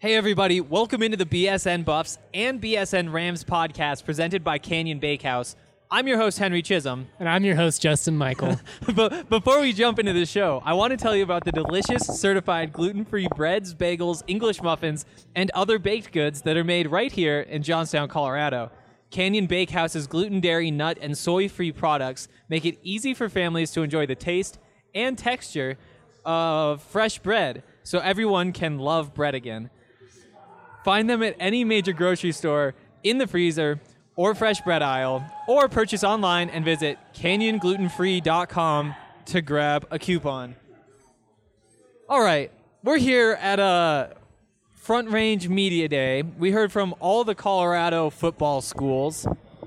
Hey everybody, welcome into the BSN Buffs and BSN Rams podcast presented by Canyon Bakehouse. I'm your host, Henry Chisholm. And I'm your host, Justin Michael. But before we jump into the show, I want to tell you about the delicious, certified gluten-free breads, bagels, English muffins, and other baked goods that are made right here in Johnstown, Colorado. Canyon Bakehouse's gluten, dairy, nut, and soy-free products make it easy for families to enjoy the taste and texture of fresh bread, so everyone can love bread again. Find them at any major grocery store, in the freezer, or fresh bread aisle, or purchase online and visit canyonglutenfree.com to grab a coupon. All right, we're here at a Front Range Media Day. We heard from all the Colorado football schools,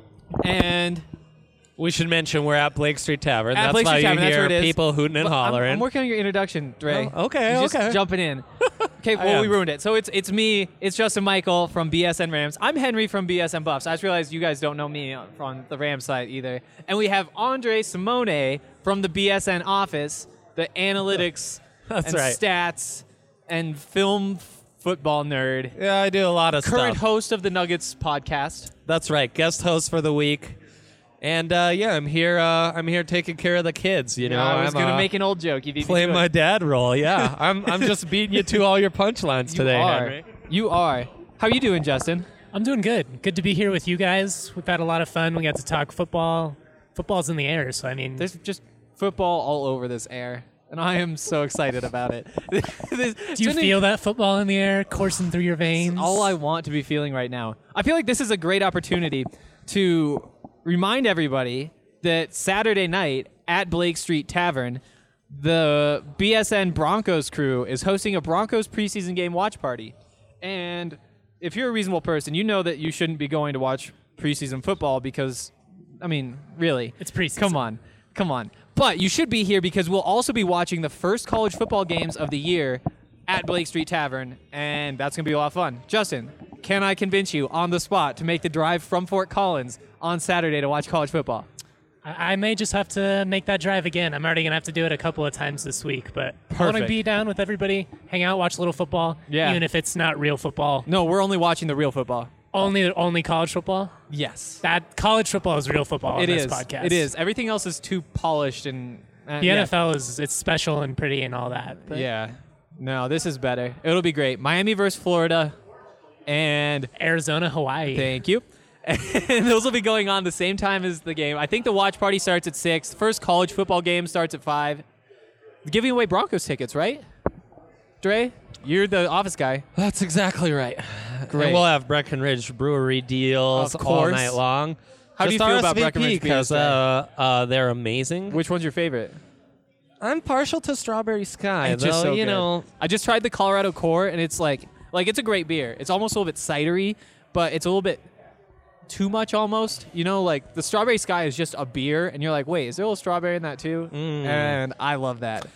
and we should mention we're at Blake Street Tavern. At That's Blake why Street you Tavern, that's where hear it is. people hooting and hollering. I'm working on your introduction, Dre. Oh, okay, You're just okay. jumping in. Okay, well, we ruined it. So it's me, it's Justin Michael from BSN Rams. I'm Henry from BSN Buffs. I just realized you guys don't know me on the Rams side either. And we have Andre Simone from the BSN office, the analytics and right. stats and film football nerd. Yeah, I do a lot of Current stuff. host of the Nuggets podcast. That's right, guest host for the week. And I'm here. I'm here taking care of the kids. You know, I was I'm going to make an old joke. You beat me playing to it. my dad role. Yeah, I'm just beating you to all your punchlines today, Henry. You are. How are you doing, Justin? I'm doing good. Good to be here with you guys. We've had a lot of fun. We got to talk football. Football's in the air, so I mean... There's just football all over this air, and I am so excited about it. Do you feel that football in the air coursing through your veins? All I want to be feeling right now. I feel like this is a great opportunity to remind everybody that Saturday night at Blake Street Tavern, the BSN Broncos crew is hosting a Broncos preseason game watch party. And if you're a reasonable person, you know that you shouldn't be going to watch preseason football because, I mean, really. It's preseason. Come on. But you should be here because we'll also be watching the first college football games of the year at Blake Street Tavern, and that's going to be a lot of fun. Justin, can I convince you on the spot to make the drive from Fort Collins on Saturday to watch college football? I may just have to make that drive again. I'm already going to have to do it a couple of times this week, but I want to be down with everybody, hang out, watch a little football, even if it's not real football. No, we're only watching the real football. Only college football? Yes. That college football is real football on this podcast. It is. Everything else is too polished and... The NFL it's special and pretty and all that. But yeah. No, this is better. It'll be great. Miami versus Florida and... Arizona, Hawaii. Thank you. And those will be going on the same time as the game. I think the watch party starts at 6. The first college football game starts at 5. Giving away Broncos tickets, right? Dre, you're the office guy. That's exactly right. Great. And we'll have Breckenridge Brewery deals Of all course. night long. How do you feel about Breckenridge Because beers, they're amazing. Which one's your favorite? I'm partial to Strawberry Sky, It's though. just so you good. know, I just tried the Colorado Core, and it's like it's a great beer. It's almost a little bit cidery, but it's a little bit too much almost. You know, like the Strawberry Sky is just a beer, and you're like, wait, is there a little strawberry in that too? And I love that.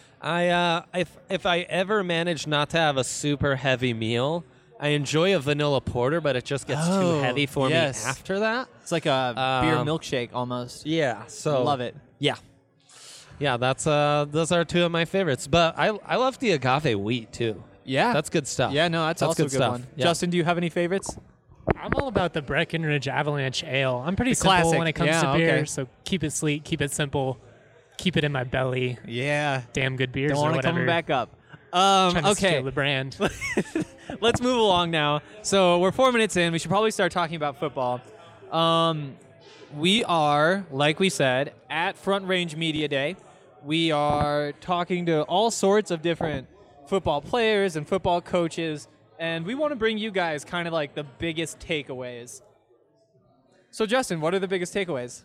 if I ever manage not to have a super heavy meal, I enjoy a vanilla porter, but it just gets too heavy for me after that. It's like a beer milkshake almost. Yeah, so Love it. Yeah, that's those are two of my favorites. But I love the agave wheat too. Yeah. That's good stuff. Yeah, no, that's also good a good stuff. one. Yeah. Justin, do you have any favorites? I'm all about the Breckenridge Avalanche Ale. I'm pretty The simple classic. when it comes Yeah, to beer, okay. so keep it sweet, keep it simple, keep it in my belly. Yeah. Damn good beers Don't or want to whatever. come back up. Trying to Okay. steal the brand. Let's move along now. So we're 4 minutes in. We should probably start talking about football. We are, like we said, at Front Range Media Day. We are talking to all sorts of different football players and football coaches, and we want to bring you guys kind of like the biggest takeaways. So, Justin, what are the biggest takeaways?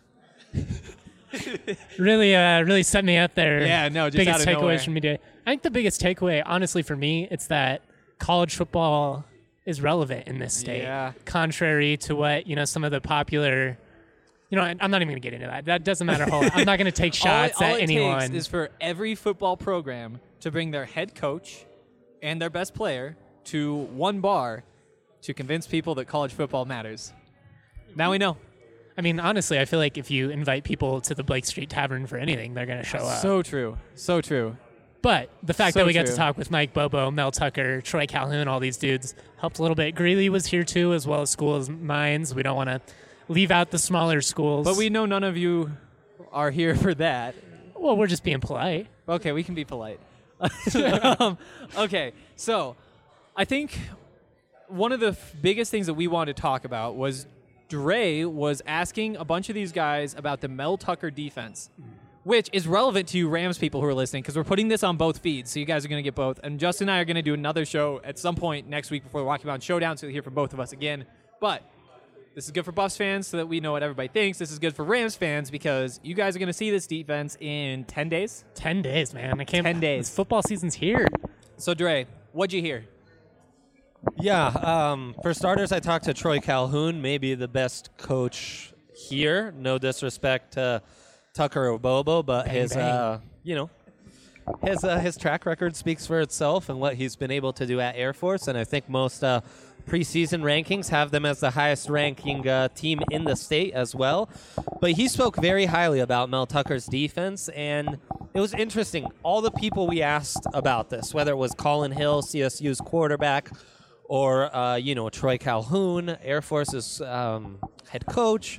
Really set me up there. Yeah, no, just biggest out of nowhere. takeaways from me today. I think the biggest takeaway, honestly, for me, it's that college football is relevant in this state. Yeah. Contrary to what some of the popular. I'm not even going to get into that. That doesn't matter. I'm not going to take shots all at anyone. All it takes is for every football program to bring their head coach and their best player to one bar to convince people that college football matters. Now we know. I mean, honestly, I feel like if you invite people to the Blake Street Tavern for anything, they're going to show up. So true. So true. But the fact that we got to talk with Mike Bobo, Mel Tucker, Troy Calhoun, all these dudes helped a little bit. Greeley was here too, as well as School of Mines. We don't want to leave out the smaller schools. But we know none of you are here for that. Well, we're just being polite. Okay, we can be polite. Okay, so I think one of the biggest things that we wanted to talk about was Dre was asking a bunch of these guys about the Mel Tucker defense, which is relevant to you Rams people who are listening because we're putting this on both feeds, so you guys are going to get both. And Justin and I are going to do another show at some point next week before the Rocky Mountain Showdown, so you'll hear from both of us again. But this is good for Buffs fans so that we know what everybody thinks. This is good for Rams fans because you guys are going to see this defense in 10 days. 10 days, man. I can't. 10 days. Football season's here. So, Dre, what'd you hear? Yeah, for starters, I talked to Troy Calhoun, maybe the best coach here. No disrespect to Tucker or Bobo, but his track record speaks for itself and what he's been able to do at Air Force. And I think most preseason rankings have them as the highest ranking team in the state as well. But he spoke very highly about Mel Tucker's defense, and it was interesting. All the people we asked about this, whether it was Colin Hill, CSU's quarterback, or Troy Calhoun, Air Force's head coach.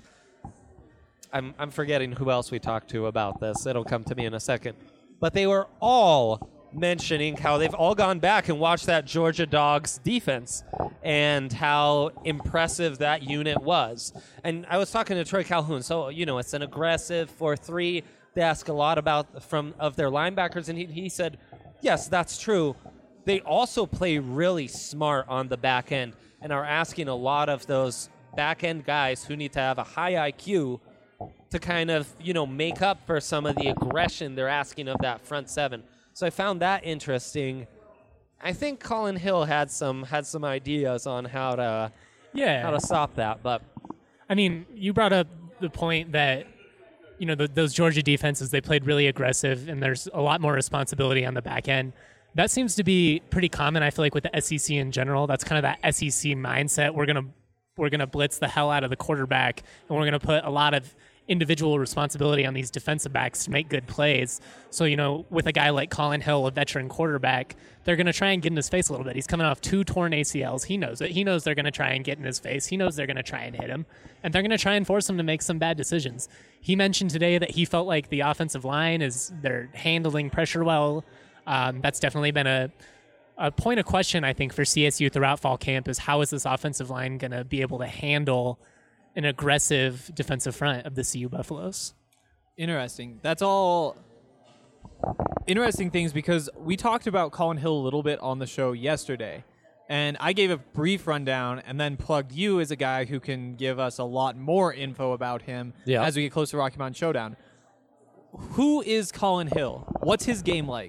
I'm forgetting who else we talked to about this. It'll come to me in a second. But they were all mentioning how they've all gone back and watched that Georgia Dogs defense and how impressive that unit was. And I was talking to Troy Calhoun. So, it's an aggressive 4-3. They ask a lot about of their linebackers, and he said, yes, that's true. They also play really smart on the back end and are asking a lot of those back end guys who need to have a high IQ to kind of, make up for some of the aggression they're asking of that front seven. So I found that interesting. I think Colin Hill had some ideas on how to stop that. But I mean, you brought up the point that those Georgia defenses, they played really aggressive, and there's a lot more responsibility on the back end. That seems to be pretty common, I feel like, with the SEC in general. That's kind of that SEC mindset. We're gonna blitz the hell out of the quarterback, and we're gonna put a lot of individual responsibility on these defensive backs to make good plays. So, with a guy like Colin Hill, a veteran quarterback, they're going to try and get in his face a little bit. He's coming off 2 torn ACLs. He knows it. He knows they're going to try and get in his face. He knows they're going to try and hit him. And they're going to try and force him to make some bad decisions. He mentioned today that he felt like the offensive line they're handling pressure well. That's definitely been a point of question, I think, for CSU throughout fall camp is how is this offensive line going to be able to handle an aggressive defensive front of the CU Buffaloes. Interesting. That's all interesting things because we talked about Colin Hill a little bit on the show yesterday, and I gave a brief rundown and then plugged you as a guy who can give us a lot more info about him as we get closer to Rocky Mountain Showdown. Who is Colin Hill? What's his game like?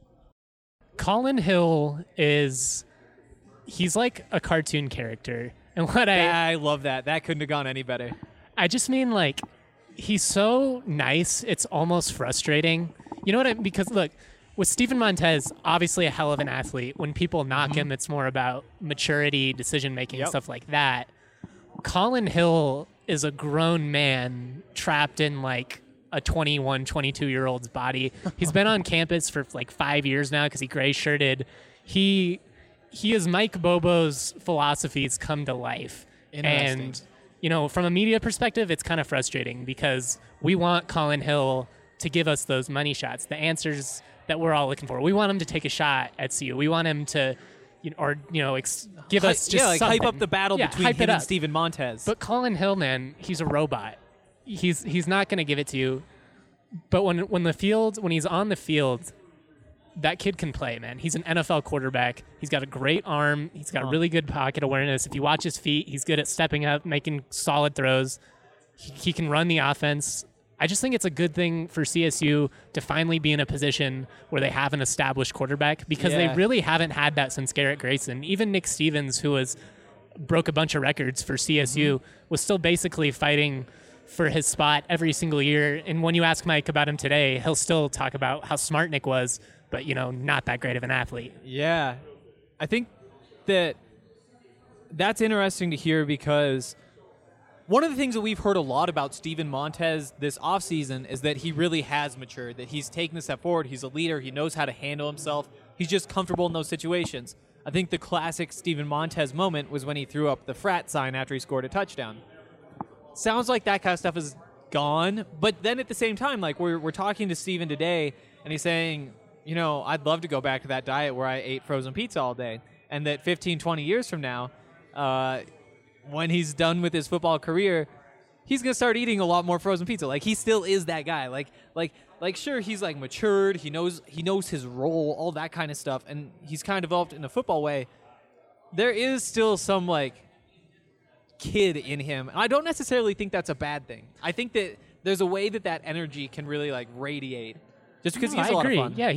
Colin Hill he's like a cartoon character. And I love that. That couldn't have gone any better. I just mean, like, he's so nice, it's almost frustrating. You know what I mean? Because, look, with Steven Montez, obviously a hell of an athlete. When people knock him, it's more about maturity, decision-making, stuff like that. Colin Hill is a grown man trapped in, like, a 21, 22-year-old's body. He's been on campus for, like, 5 years now because he gray-shirted. He is Mike Bobo's philosophies come to life. And, from a media perspective, it's kind of frustrating because we want Colin Hill to give us those money shots, the answers that we're all looking for. We want him to take a shot at CU. We want him to, give us just hype up the battle between him and Steven Montez. But Colin Hill, man, he's a robot. He's not going to give it to you. But when he's on the field, that kid can play, man. He's an NFL quarterback. He's got a great arm. He's got really good pocket awareness. If you watch his feet, he's good at stepping up, making solid throws. He can run the offense. I just think it's a good thing for CSU to finally be in a position where they have an established quarterback because they really haven't had that since Garrett Grayson. Even Nick Stevens, who broke a bunch of records for CSU, was still basically fighting for his spot every single year. And when you ask Mike about him today, he'll still talk about how smart Nick was, but, not that great of an athlete. Yeah. I think that's interesting to hear because One of the things that we've heard a lot about Steven Montez this offseason is that he really has matured, that he's taken a step forward. He's a leader. He knows how to handle himself. He's just comfortable in those situations. I think the classic Steven Montez moment was when he threw up the frat sign after he scored a touchdown. Sounds like that kind of stuff is gone, but then at the same time, like we're talking to Steven today, and he's saying, you know, I'd love to go back to that diet where I ate frozen pizza all day, and that 15, 20 years from now, when he's done with his football career, he's gonna start eating a lot more frozen pizza. Like he still is that guy. Like sure, he's like matured. He knows his role, all that kind of stuff, and he's kind of developed in a football way. There is still some like kid in him. I don't necessarily think that's a bad thing. I think that there's a way that energy can really like radiate, just because he's a lot of fun. Yeah,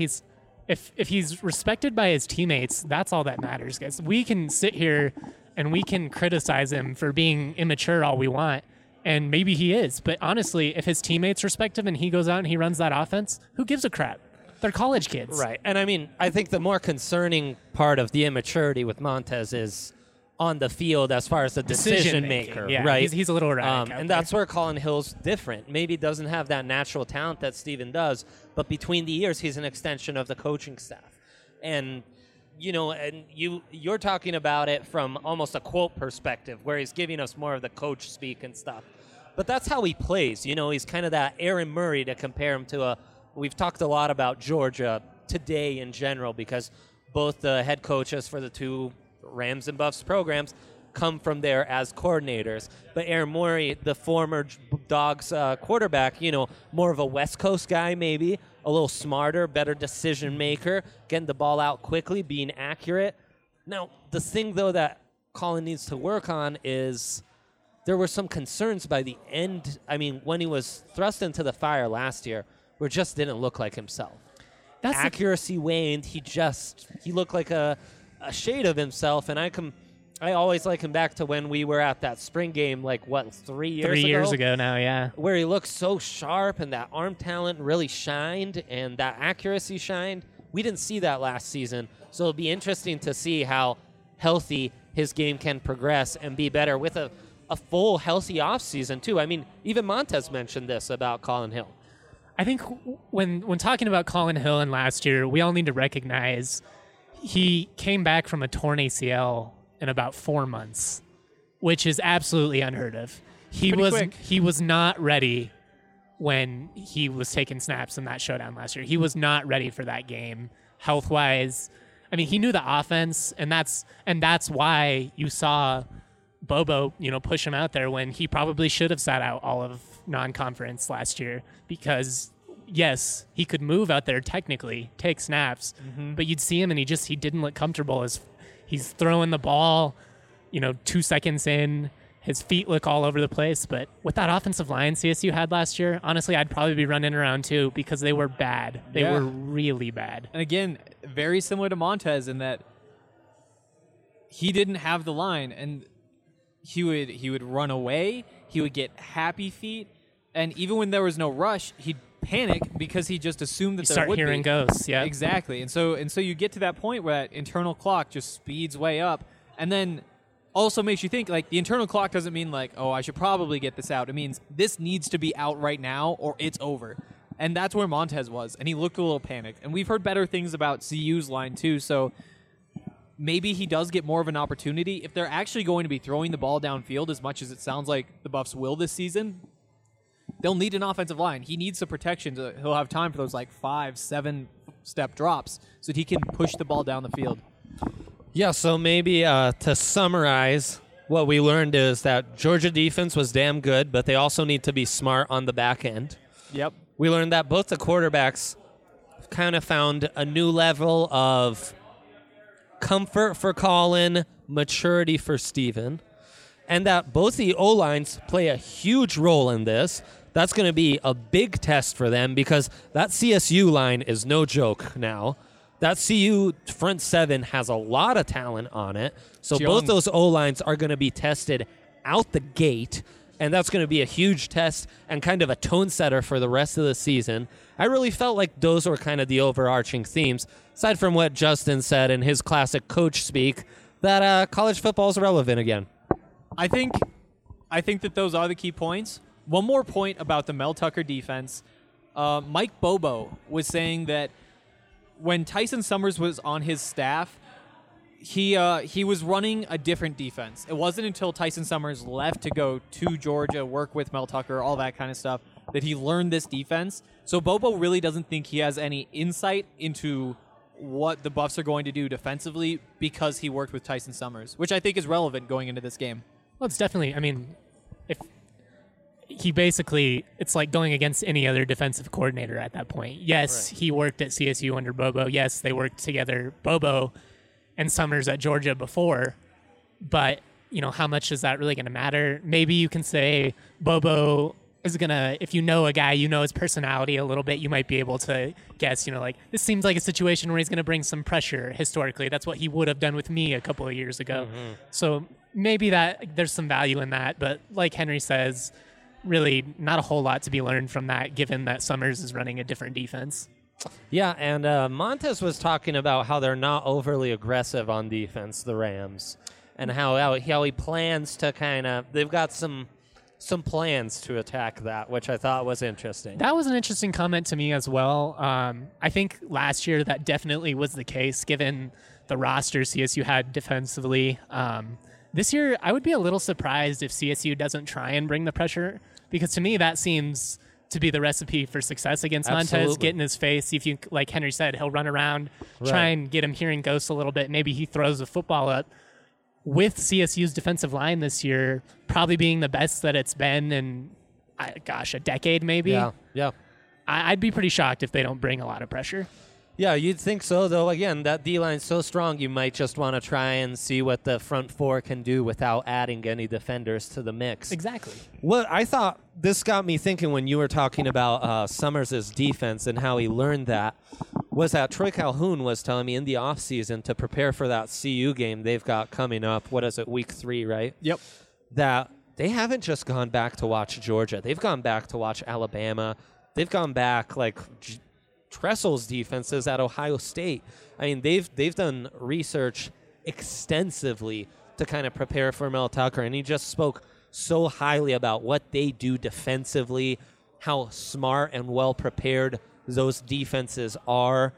if he's respected by his teammates, that's all that matters, guys. We can sit here and we can criticize him for being immature all we want, and maybe he is. But honestly, if his teammates respect him and he goes out and he runs that offense, who gives a crap? They're college kids. Right. And I mean, I think the more concerning part of the immaturity with Montez is on the field as far as the decision maker, yeah, right? He's a little erratic. And that's where Colin Hill's different. Maybe doesn't have that natural talent that Steven does, but between the years, he's an extension of the coaching staff. And you know, and you're talking about it from almost a quote perspective, where he's giving us more of the coach speak and stuff. But that's how he plays. You know, he's kind of that Aaron Murray, to compare him to we've talked a lot about Georgia today in general, because both the head coaches for the two Rams and Buffs programs come from there as coordinators. But Aaron Murray, the former Dogs quarterback, you know, more of a West Coast guy maybe, a little smarter, better decision maker, getting the ball out quickly, being accurate. Now, the thing, though, that Colin needs to work on is there were some concerns by the end. I mean, when he was thrust into the fire last year, where it just didn't look like himself. Accuracy waned. He looked like a shade of himself, and I always like him back to when we were at that spring game, like, 3 years ago? 3 years ago now, yeah. Where he looked so sharp, and that arm talent really shined, and that accuracy shined. We didn't see that last season, so it'll be interesting to see how healthy his game can progress and be better with a full, healthy offseason, too. I mean, even Montez mentioned this about Colin Hill. I think when talking about Colin Hill and last year, we all need to recognize he came back from a torn ACL in about 4 months, which is absolutely unheard of. He was not ready when he was taking snaps in that showdown last year. He was not ready for that game health-wise. I mean, he knew the offense, and that's why you saw Bobo, you know, push him out there when he probably should have sat out all of non-conference last year, because yes, he could move out there technically, take snaps, but you'd see him and he didn't look comfortable as he's throwing the ball, you know, 2 seconds in, his feet look all over the place. But with that offensive line CSU had last year, honestly, I'd probably be running around too, because they were bad. They were really bad. And again, very similar to Montez in that he didn't have the line, and he would run away, he would get happy feet, and even when there was no rush, he'd panic because he just assumed that there would be. Start hearing ghosts, yeah. Exactly. And so you get to that point where that internal clock just speeds way up, and then also makes you think, like, the internal clock doesn't mean like, oh, I should probably get this out. It means this needs to be out right now or it's over. And that's where Montez was, and he looked a little panicked. And we've heard better things about CU's line too, so maybe he does get more of an opportunity. If they're actually going to be throwing the ball downfield as much as it sounds like the Buffs will this season, they'll need an offensive line. He needs some protection. He'll have time for those like 5-7 step drops so that he can push the ball down the field. Yeah, so maybe to summarize, what we learned is that Georgia defense was damn good, but they also need to be smart on the back end. Yep. We learned that both the quarterbacks kind of found a new level of comfort for Colin, maturity for Steven, and that both the O-lines play a huge role in this. That's going to be a big test for them, because that CSU line is no joke now. That CU front seven has a lot of talent on it. So both those O-lines are going to be tested out the gate, and that's going to be a huge test and kind of a tone setter for the rest of the season. I really felt like those were kind of the overarching themes, aside from what Justin said in his classic coach speak, that college football is relevant again. I think I think that those are the key points. One more point about the Mel Tucker defense. Mike Bobo was saying that when Tyson Summers was on his staff, he was running a different defense. It wasn't until Tyson Summers left to go to Georgia, work with Mel Tucker, all that kind of stuff, that he learned this defense. So Bobo really doesn't think he has any insight into what the Buffs are going to do defensively because he worked with Tyson Summers, which I think is relevant going into this game. Well, it's definitely, I mean, if he basically, it's like going against any other defensive coordinator at that point. Yes, He worked at CSU under Bobo. Yes, they worked together, Bobo and Summers at Georgia before. But, how much is that really going to matter? Maybe you can say Bobo is going to, if you know a guy, his personality a little bit, you might be able to guess, this seems like a situation where he's going to bring some pressure historically. That's what he would have done with me a couple of years ago. Mm-hmm. So maybe that there's some value in that. But like Henry says, really not a whole lot to be learned from that, given that Summers is running a different defense. Yeah, and Montez was talking about how they're not overly aggressive on defense, the Rams, and how he plans to they've got some plans to attack that, which I thought was interesting. That was an interesting comment to me as well. I think last year that definitely was the case, given the roster CSU had defensively. This year, I would be a little surprised if CSU doesn't try and bring the pressure, because to me that seems to be the recipe for success against Montez. Get in his face, see if you, like Henry said, he'll run around, try and get him hearing ghosts a little bit. Maybe he throws the football up. With CSU's defensive line this year probably being the best that it's been in, a decade maybe. Yeah. I'd be pretty shocked if they don't bring a lot of pressure. Yeah, you'd think so, though. Again, that D-line's so strong, you might just want to try and see what the front four can do without adding any defenders to the mix. Exactly. What I thought, this got me thinking when you were talking about Summers' defense and how he learned that, was that Troy Calhoun was telling me in the offseason to prepare for that CU game they've got coming up. What is it, week 3, right? Yep. That they haven't just gone back to watch Georgia. They've gone back to watch Alabama. They've gone back, Tressel's defenses at Ohio State. I mean, they've done research extensively to kind of prepare for Mel Tucker, and he just spoke so highly about what they do defensively, how smart and well prepared those defenses are,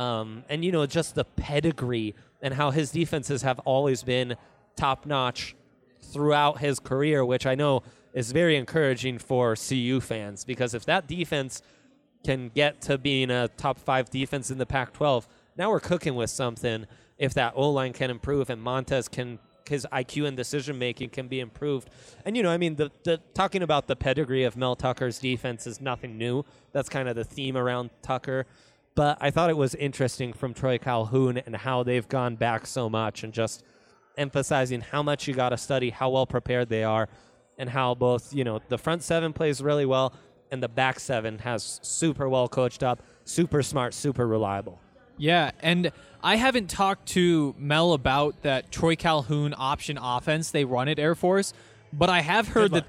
and just the pedigree and how his defenses have always been top notch throughout his career, which I know is very encouraging for CU fans, because if that defense can get to being a top 5 defense in the Pac-12, now we're cooking with something. If that O-line can improve and Montez his IQ and decision-making can be improved. And, the talking about the pedigree of Mel Tucker's defense is nothing new. That's kind of the theme around Tucker. But I thought it was interesting from Troy Calhoun and how they've gone back so much and just emphasizing how much you got to study, how well prepared they are, and how both, the front 7 plays really well and the back 7 has super well coached up, super smart, super reliable. Yeah, and I haven't talked to Mel about that Troy Calhoun option offense they run at Air Force, but I have heard that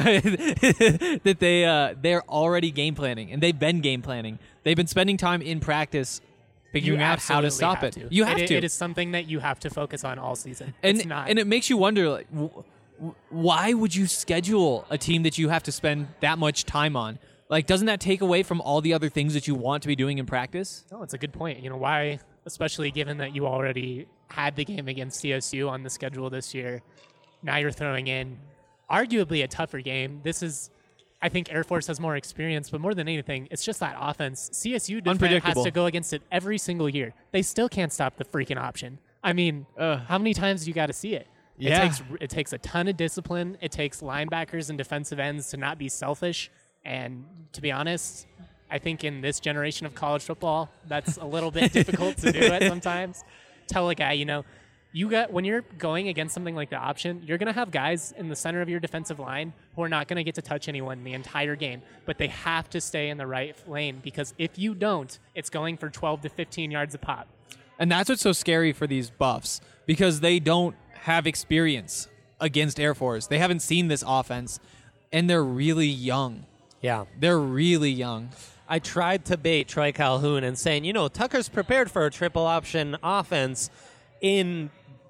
they're already game planning, and they've been game planning. They've been spending time in practice figuring out how to stop it. You have to. It is something that you have to focus on all season. And it makes you wonder, why would you schedule a team that you have to spend that much time on? Doesn't that take away from all the other things that you want to be doing in practice? No, it's a good point. Why, especially given that you already had the game against CSU on the schedule this year, now you're throwing in arguably a tougher game. I think Air Force has more experience, but more than anything, it's just that offense. CSU defense has to go against it every single year. They still can't stop the freaking option. I mean, how many times do you got to see it? Yeah. It takes a ton of discipline. It takes linebackers and defensive ends to not be selfish. And to be honest, I think in this generation of college football, that's a little bit difficult to do it sometimes. Tell a guy, when you're going against something like the option, you're going to have guys in the center of your defensive line who are not going to get to touch anyone the entire game, but they have to stay in the right lane, because if you don't, it's going for 12 to 15 yards a pop. And that's what's so scary for these Buffs, because they don't have experience against Air Force. They haven't seen this offense, and they're really young. Yeah. They're really young. I tried to bait Troy Calhoun and saying, Tucker's prepared for a triple option offense in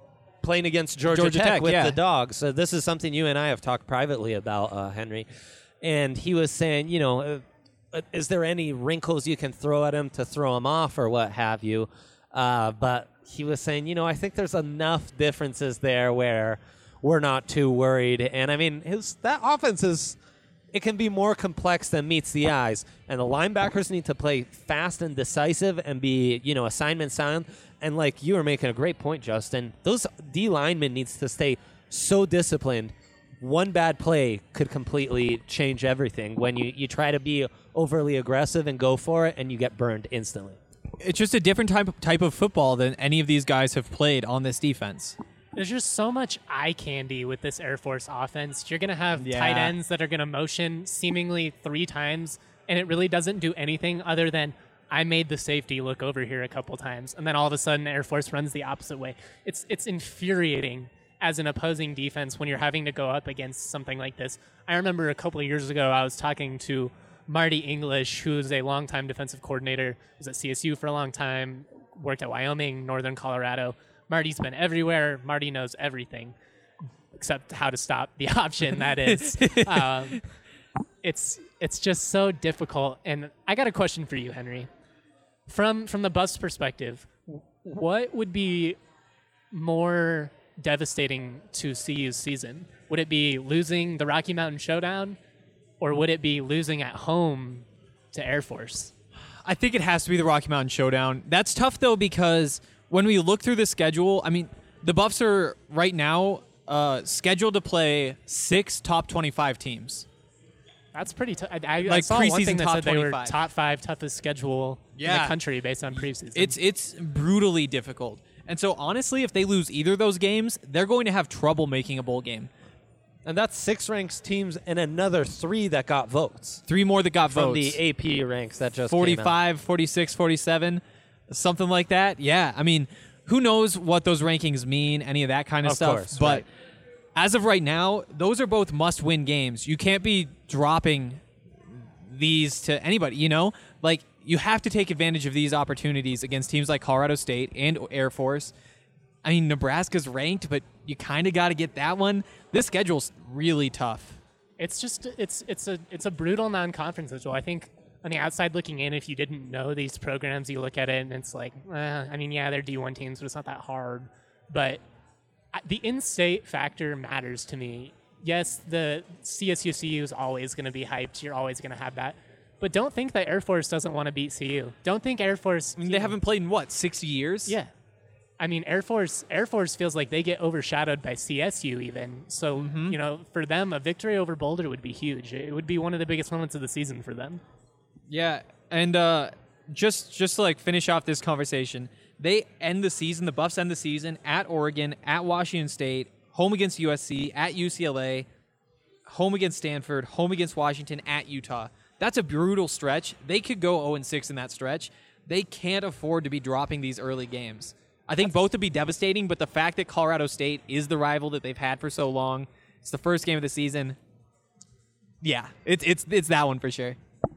playing against Georgia Tech with yeah. the Dogs. So this is something you and I have talked privately about, Henry. And he was saying, is there any wrinkles you can throw at him to throw him off or what have you? But he was saying, I think there's enough differences there where we're not too worried. And, I mean, that offense it can be more complex than meets the eyes. And the linebackers need to play fast and decisive and be, assignment sound. And like you were making a great point, Justin, those D linemen needs to stay so disciplined. One bad play could completely change everything when you try to be overly aggressive and go for it and you get burned instantly. It's just a different type of football than any of these guys have played on this defense. There's just so much eye candy with this Air Force offense. You're going to have Yeah. tight ends that are going to motion seemingly 3 times, and it really doesn't do anything other than I made the safety look over here a couple times, and then all of a sudden Air Force runs the opposite way. It's infuriating as an opposing defense when you're having to go up against something like this. I remember a couple of years ago I was talking to Marty English, who's a longtime defensive coordinator, was at CSU for a long time, worked at Wyoming, Northern Colorado. Marty's been everywhere. Marty knows everything except how to stop the option, that is. It's just so difficult. And I got a question for you, Henry. From the Buffs' perspective, what would be more devastating to CU's season? Would it be losing the Rocky Mountain Showdown, or would it be losing at home to Air Force? I think it has to be the Rocky Mountain Showdown. That's tough, though, because when we look through the schedule, I mean, the Buffs are right now scheduled to play 6 top 25 teams. That's pretty tough. I Like saw one preseason thing that top said they were 25. top 5 toughest schedule in Yeah. the country based on preseason. It's brutally difficult. And so, honestly, if they lose either of those games, they're going to have trouble making a bowl game. And that's 6 ranked teams and another 3 that got votes 3 more that got from votes. the AP ranks that just came out. 45, 46, 47, something like that. Yeah, I mean, who knows what those rankings mean, any of that kind of, Of stuff. course, but right. as of right now, those are both must-win games. You can't be dropping these to anybody, Like, you have to take advantage of these opportunities against teams like Colorado State and Air Force. I mean, Nebraska's ranked, but you kind of got to get that one. This schedule's really tough. It's just it's a brutal non-conference schedule. I think on the outside looking in, if you didn't know these programs, you look at it and it's like, I mean, yeah, they're D1 teams, but it's not that hard. But the in-state factor matters to me. Yes, the CSU is always going to be hyped. You're always going to have that. But don't think that Air Force doesn't want to beat CU. Don't think Air Force. I mean, they haven't played in, 6 years? Yeah. I mean, Air Force feels like they get overshadowed by CSU even. So, for them, a victory over Boulder would be huge. It would be one of the biggest moments of the season for them. Yeah, and just to like finish off this conversation, they end the season. The Buffs end the season at Oregon, at Washington State, home against USC, at UCLA, home against Stanford, home against Washington, at Utah. That's a brutal stretch. They could go 0-6 in that stretch. They can't afford to be dropping these early games. I think both would be devastating, but the fact that Colorado State is the rival that they've had for so long, it's the first game of the season. Yeah, it's that one for sure.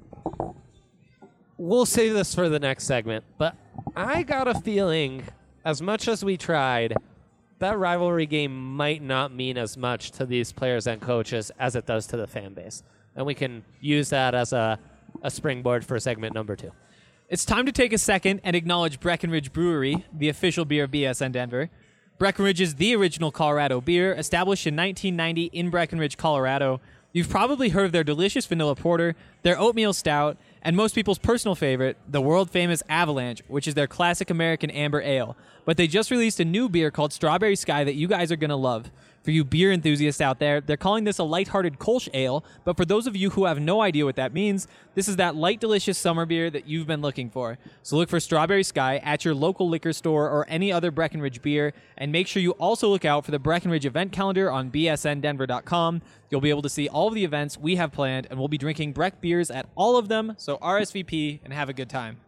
We'll save this for the next segment, but I got a feeling, as much as we tried, that rivalry game might not mean as much to these players and coaches as it does to the fan base. And we can use that as a springboard for segment number 2. It's time to take a second and acknowledge Breckenridge Brewery, the official beer of BSN Denver. Breckenridge is the original Colorado beer, established in 1990 in Breckenridge, Colorado. You've probably heard of their delicious vanilla porter, their oatmeal stout, and most people's personal favorite, the world-famous Avalanche, which is their classic American amber ale. But they just released a new beer called Strawberry Sky that you guys are going to love. For you beer enthusiasts out there, they're calling this a lighthearted Kolsch ale, but for those of you who have no idea what that means, this is that light, delicious summer beer that you've been looking for. So look for Strawberry Sky at your local liquor store or any other Breckenridge beer, and make sure you also look out for the Breckenridge event calendar on bsndenver.com. You'll be able to see all of the events we have planned, and we'll be drinking Breck beers at all of them, so RSVP and have a good time.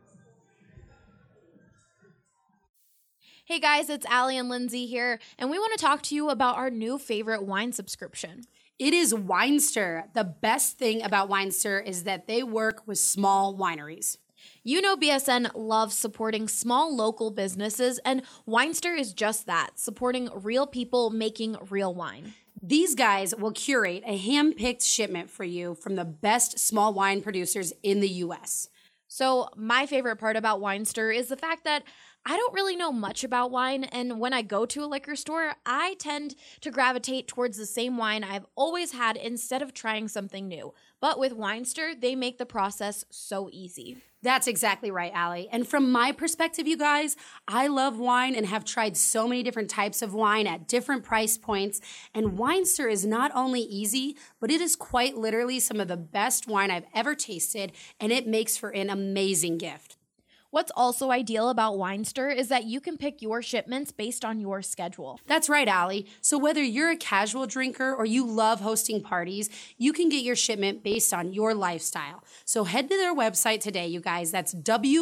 Hey guys, it's Allie and Lindsay here, and we want to talk to you about our new favorite wine subscription. It is Winester. The best thing about Winester is that they work with small wineries. You know BSN loves supporting small local businesses, and Winester is just that, supporting real people making real wine. These guys will curate a hand-picked shipment for you from the best small wine producers in the U.S. So my favorite part about Winester is the fact that I don't really know much about wine, and when I go to a liquor store, I tend to gravitate towards the same wine I've always had instead of trying something new. But with Winester, they make the process so easy. That's exactly right, Allie. And from my perspective, you guys, I love wine and have tried so many different types of wine at different price points. And Winester is not only easy, but it is quite literally some of the best wine I've ever tasted, and it makes for an amazing gift. What's also ideal about Winester is that you can pick your shipments based on your schedule. That's right, Allie. So whether you're a casual drinker or you love hosting parties, you can get your shipment based on your lifestyle. So head to their website today, you guys. That's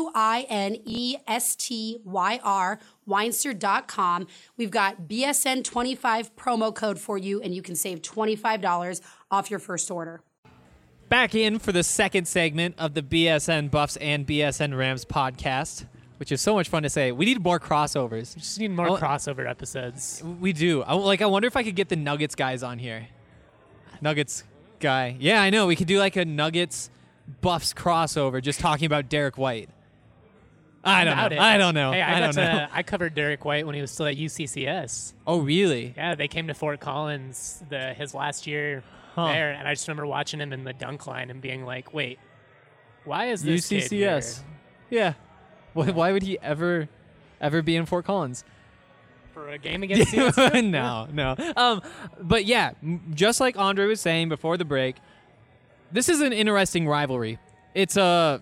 WINESTYR, Winester.com. We've got BSN25 promo code for you, and you can save $25 off your first order. Back in for the second segment of the BSN Buffs and BSN Rams podcast, which is so much fun to say. We need more crossovers. We just need more crossover episodes. We do. I wonder if I could get the Nuggets guys on here. Nuggets guy. Yeah, I know. We could do like a Nuggets Buffs crossover just talking about Derek White. I don't know. Hey, I don't know. I covered Derek White when he was still at UCCS. Oh, really? Yeah, they came to Fort Collins his last year there, and I just remember watching him in the dunk line and being like, wait, why is this kid here? UCCS. Yeah. Why would he ever be in Fort Collins? For a game against CSU? No. But yeah, just like Andre was saying before the break, this is an interesting rivalry. It's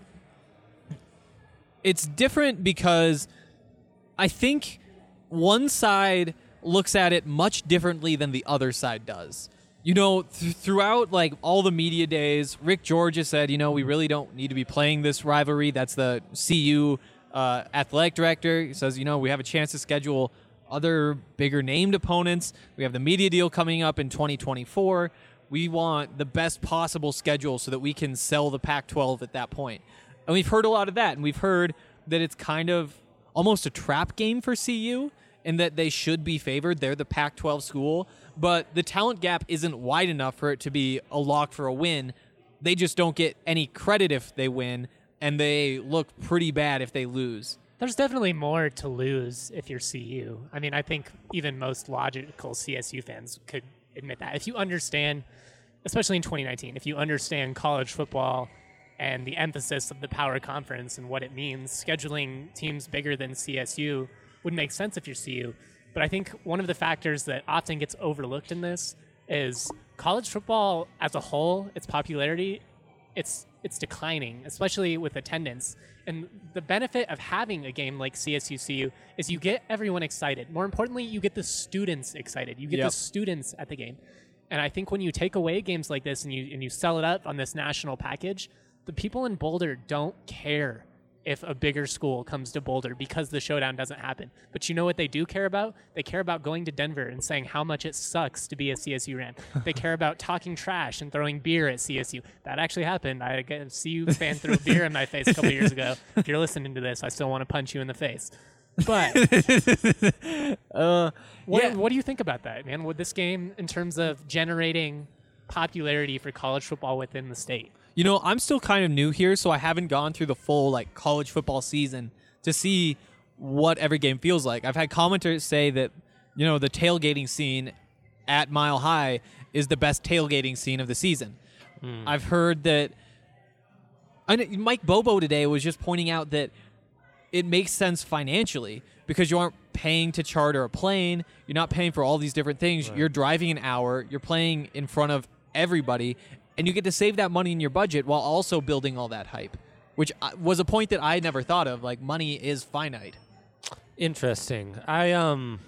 different because I think one side looks at it much differently than the other side does. You know, throughout like all the media days, Rick George has said, we really don't need to be playing this rivalry. That's the CU athletic director. He says, we have a chance to schedule other bigger named opponents. We have the media deal coming up in 2024. We want the best possible schedule so that we can sell the Pac-12 at that point. And we've heard a lot of that, and we've heard that it's kind of almost a trap game for CU and that they should be favored. They're the Pac-12 school, but the talent gap isn't wide enough for it to be a lock for a win. They just don't get any credit if they win, and they look pretty bad if they lose. There's definitely more to lose if you're CU. I mean, I think even most logical CSU fans could admit that. If you understand, especially in 2019, if you understand college football and the emphasis of the power conference and what it means, scheduling teams bigger than CSU would make sense if you're CU. But I think one of the factors that often gets overlooked in this is college football as a whole, its popularity, it's declining, especially with attendance. And the benefit of having a game like CSU-CU is you get everyone excited. More importantly, you get the students excited. You get the students at the game. And I think when you take away games like this and you sell it up on this national package, the people in Boulder don't care if a bigger school comes to Boulder because the showdown doesn't happen. But you know what they do care about? They care about going to Denver and saying how much it sucks to be a CSU Ram. They care about talking trash and throwing beer at CSU. That actually happened. I had a CU fan threw a beer in my face a couple years ago. If you're listening to this, I still want to punch you in the face. But what do you think about that, man? With this game in terms of generating popularity for college football within the state? I'm still kind of new here, so I haven't gone through the full college football season to see what every game feels like. I've had commenters say that, the tailgating scene at Mile High is the best tailgating scene of the season. I've heard that Mike Bobo today was just pointing out that it makes sense financially because you aren't paying to charter a plane. You're not paying for all these different things. Right. You're driving an hour. You're playing in front of everybody. And you get to save that money in your budget while also building all that hype, which was a point that I never thought of. Money is finite. Interesting. I've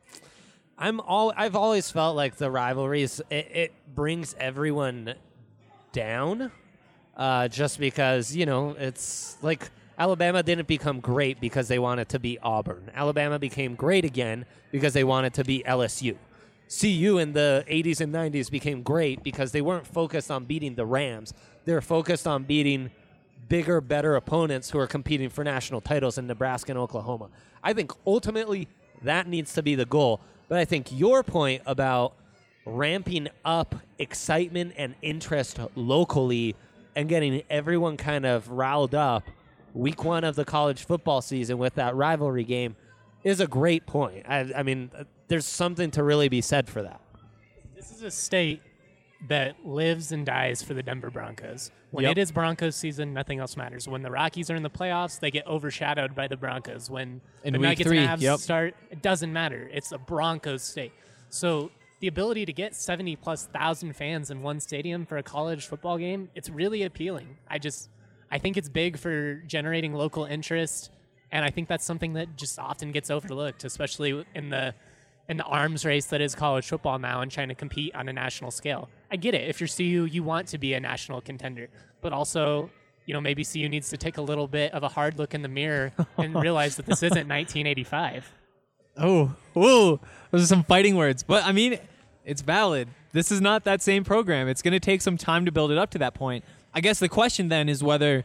always felt like the rivalries it brings everyone down, just because it's like Alabama didn't become great because they wanted to be Auburn. Alabama became great again because they wanted to be LSU. CU in the 80s and 90s became great because they weren't focused on beating the Rams. They were focused on beating bigger, better opponents who are competing for national titles in Nebraska and Oklahoma. I think ultimately that needs to be the goal. But I think your point about ramping up excitement and interest locally and getting everyone kind of riled up week one of the college football season with that rivalry game is a great point. I mean, there's something to really be said for that. This is a state that lives and dies for the Denver Broncos. When Yep. it is Broncos season, nothing else matters. When the Rockies are in the playoffs, they get overshadowed by the Broncos. When In the week Nuggets 3, and Avs yep. start, it doesn't matter. It's a Broncos state. So the ability to get 70+ thousand fans in one stadium for a college football game, it's really appealing. I think it's big for generating local interest, and I think that's something that just often gets overlooked, especially in the arms race that is college football now and trying to compete on a national scale. I get it. If you're CU, you want to be a national contender, but also, maybe CU needs to take a little bit of a hard look in the mirror and realize that this isn't 1985. Oh, whoa. Those are some fighting words. But, I mean, it's valid. This is not that same program. It's going to take some time to build it up to that point. I guess the question then is whether,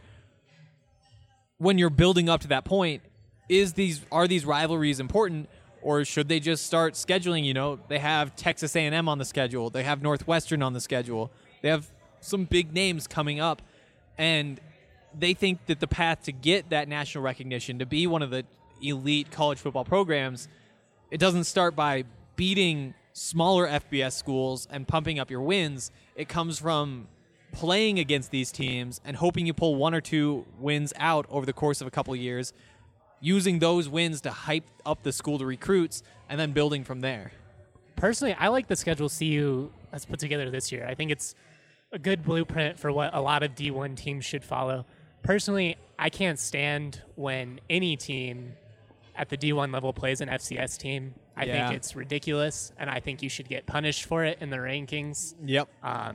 when you're building up to that point, are these rivalries important, or should they just start scheduling? They have Texas A&M on the schedule. They have Northwestern on the schedule. They have some big names coming up, and they think that the path to get that national recognition, to be one of the elite college football programs, it doesn't start by beating smaller FBS schools and pumping up your wins. It comes from playing against these teams and hoping you pull one or two wins out over the course of a couple of years, using those wins to hype up the school to recruits, and then building from there. Personally, I like the schedule CU has put together this year. I think it's a good blueprint for what a lot of D1 teams should follow. Personally, I can't stand when any team at the D1 level plays an FCS team. I think it's ridiculous, and I think you should get punished for it in the rankings. Yep.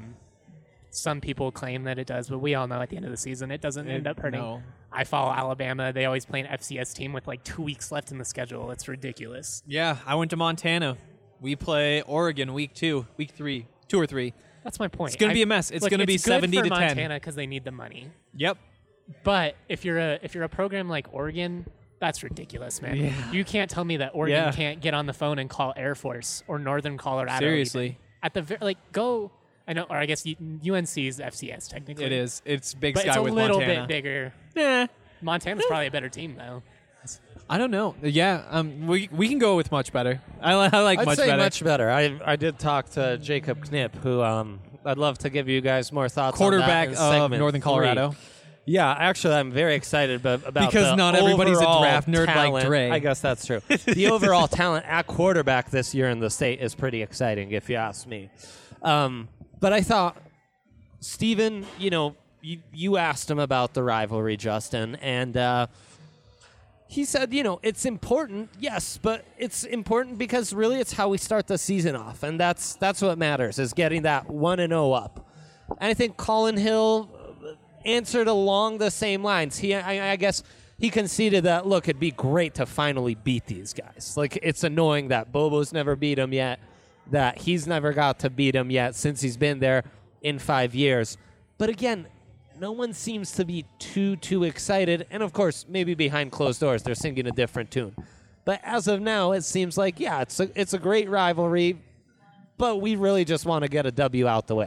Some people claim that it does, but we all know at the end of the season it doesn't end up hurting. No. I follow Alabama. They always play an FCS team with like 2 weeks left in the schedule. It's ridiculous. Yeah, I went to Montana. We play Oregon week 3, 2 or 3. That's my point. It's going to be a mess. It's going to be 70 good to for 10. Montana because they need the money. Yep. But if you're a program like Oregon, that's ridiculous, man. Yeah. You can't tell me that Oregon Yeah. can't get on the phone and call Air Force or Northern Colorado. Seriously. even. At the go. I know, or I guess UNC is FCS technically. It is. It's Big but Sky it's a with little Montana. bit bigger. Yeah. Montana's probably a better team though. I don't know. Yeah, we can go with much better. I like I'd much say better. much better. I did talk to Jacob Knipp, who I'd love to give you guys more thoughts Quarterback on that in of segment Northern 3. Colorado. Yeah, actually, I'm very excited about Because the not everybody's a overall draft nerd like talent. Dre. I guess that's true. The overall talent at quarterback this year in the state is pretty exciting, if you ask me. But I thought, Steven, you asked him about the rivalry, Justin, and he said, it's important, yes, but it's important because really it's how we start the season off, and that's what matters, is getting that 1-0 up. And I think Colin Hill answered along the same lines. I guess he conceded that, look, it'd be great to finally beat these guys. Like, it's annoying that Bobo's never beat him yet, that he's never got to beat him yet since he's been there in 5 years. But again, no one seems to be too excited. And, of course, maybe behind closed doors they're singing a different tune. But as of now, it seems like, yeah, it's a great rivalry, but we really just want to get a W out the way.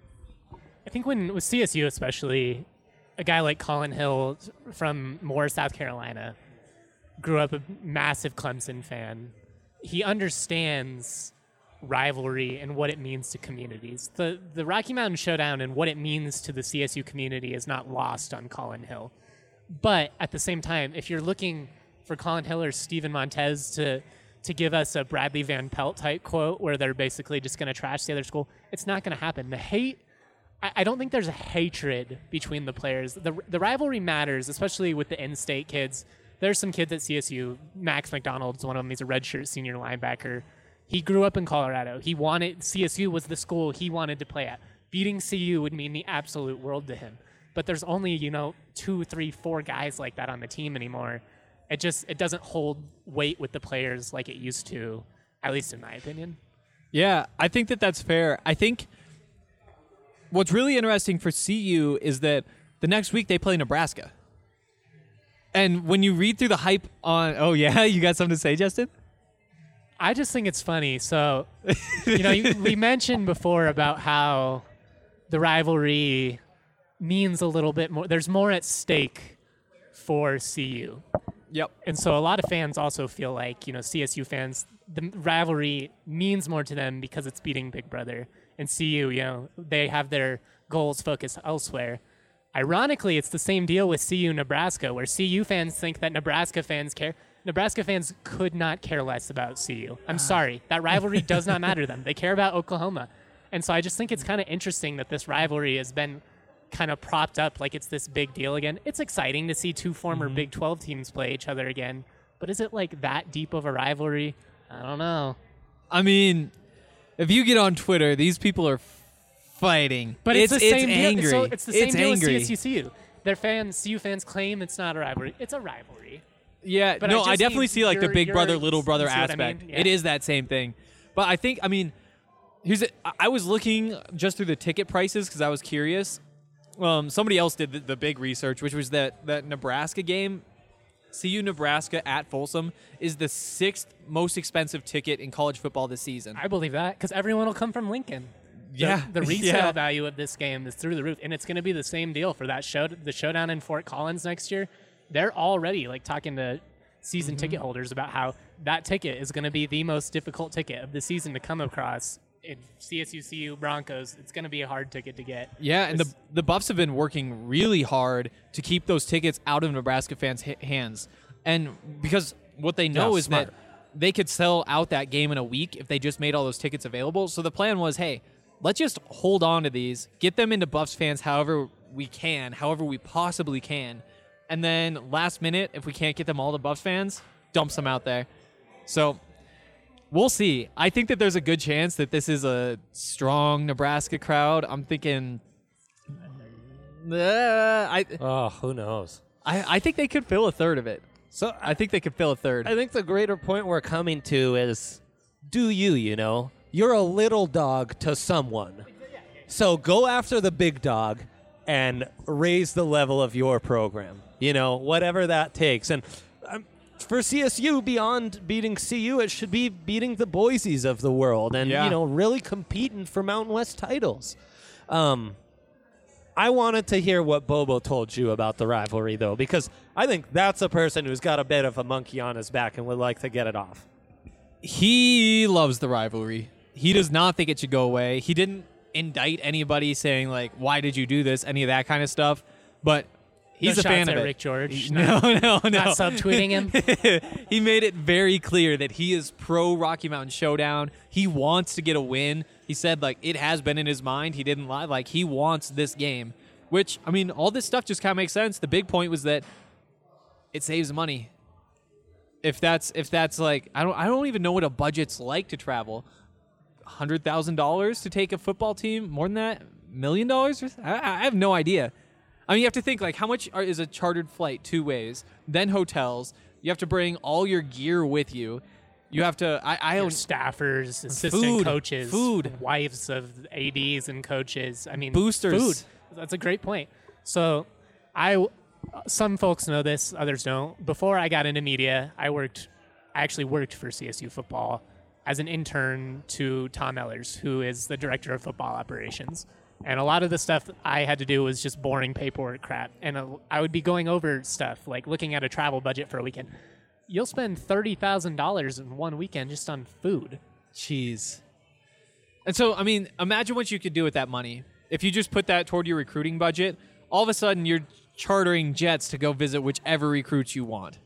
I think with CSU especially, a guy like Colin Hill from Moore, South Carolina, grew up a massive Clemson fan. He understands rivalry and what it means to communities. The Rocky Mountain Showdown and what it means to the CSU community is not lost on Colin Hill. But at the same time, if you're looking for Colin Hill or Steven Montez to give us a Bradley Van Pelt type quote where they're basically just going to trash the other school, it's not going to happen. The hate, I don't think there's a hatred between the players. The rivalry matters, especially with the in-state kids. There's some kids at CSU. Max McDonald's one of them. He's a redshirt senior linebacker. He grew up in Colorado. CSU was the school he wanted to play at. Beating CU would mean the absolute world to him. But there's only, 2, 3, 4 guys like that on the team anymore. It doesn't hold weight with the players like it used to, at least in my opinion. Yeah, I think that's fair. I think what's really interesting for CU is that The next week they play Nebraska. And when you read through the hype on, oh yeah, you got something to say, Justin? I just think it's funny. So, we mentioned before about how the rivalry means a little bit more. There's more at stake for CU. Yep. And so a lot of fans also feel like, CSU fans, the rivalry means more to them because it's beating Big Brother. And CU, they have their goals focused elsewhere. Ironically, it's the same deal with CU Nebraska, where CU fans think that Nebraska fans care. Nebraska fans could not care less about CU. I'm sorry. That rivalry does not matter to them. They care about Oklahoma. And so I just think it's kind of interesting that this rivalry has been kind of propped up like it's this big deal again. It's exciting to see two former Big 12 teams play each other again. But is it like that deep of a rivalry? I don't know. I mean, if you get on Twitter, these people are fighting. But it's the same angry. deal. So it's the same deal angry. with CSU. Their fans, CU fans claim it's not a rivalry. It's a rivalry. Yeah, But no, I I just definitely mean see like the big brother, little brother you see what I aspect. mean? Yeah. It is that same thing. But I mean, I was looking just through the ticket prices because I was curious. Somebody else did the big research, which was that Nebraska game, CU Nebraska at Folsom, is the 6th most expensive ticket in college football this season. I believe that because everyone will come from Lincoln. Yeah. The resale Yeah. value of this game is through the roof, and it's going to be the same deal for that the showdown in Fort Collins next year. They're already like talking to season ticket holders about how that ticket is going to be the most difficult ticket of the season to come across. In CSU CU Broncos, it's going to be a hard ticket to get. Yeah, and the Buffs have been working really hard to keep those tickets out of Nebraska fans' hands. And because what they know is smart. that they could sell out that game in a week if they just made all those tickets available. So the plan was, hey, let's just hold on to these, get them into Buffs fans however we possibly can. And then last minute, if we can't get them all to Buffs fans, dumps them out there. So we'll see. I think that there's a good chance that this is a strong Nebraska crowd. I'm thinking, Who knows? I think they could fill a third of it. So I think they could fill a third. I think the greater point we're coming to is, do you're a little dog to someone. So go after the big dog and raise the level of your program. Whatever that takes. And for CSU, beyond beating CU, it should be beating the Boise's of the world and, really competing for Mountain West titles. I wanted to hear what Bobo told you about the rivalry, though, because I think that's a person who's got a bit of a monkey on his back and would like to get it off. He loves the rivalry. He does not think it should go away. He didn't indict anybody saying, like, why did you do this, any of that kind of stuff. But he's No a fan shots of at it. Rick George. No. Not subtweeting him. He made it very clear that he is pro Rocky Mountain Showdown. He wants to get a win. He said, like, it has been in his mind. He didn't lie. Like, he wants this game, which, I mean, all this stuff just kind of makes sense. The big point was that it saves money. If that's like, I don't even know what a budget's like to travel. $100,000 to take a football team? More than that? $1 million? I have no idea. I mean, you have to think, like, how much is a chartered flight 2 ways? Then hotels. You have to bring all your gear with you. You have to. I Your don't. staffers, assistant coaches, food. wives of ADs and coaches. I mean, Boosters. Food. That's a great point. So, some folks know this, others don't. Before I got into media, I actually worked for CSU football as an intern to Tom Ellers, who is the director of football operations. And a lot of the stuff I had to do was just boring paperwork crap. And I would be going over stuff, like looking at a travel budget for a weekend. You'll spend $30,000 in one weekend just on food. Jeez. And so, I mean, imagine what you could do with that money. If you just put that toward your recruiting budget, all of a sudden you're chartering jets to go visit whichever recruits you want.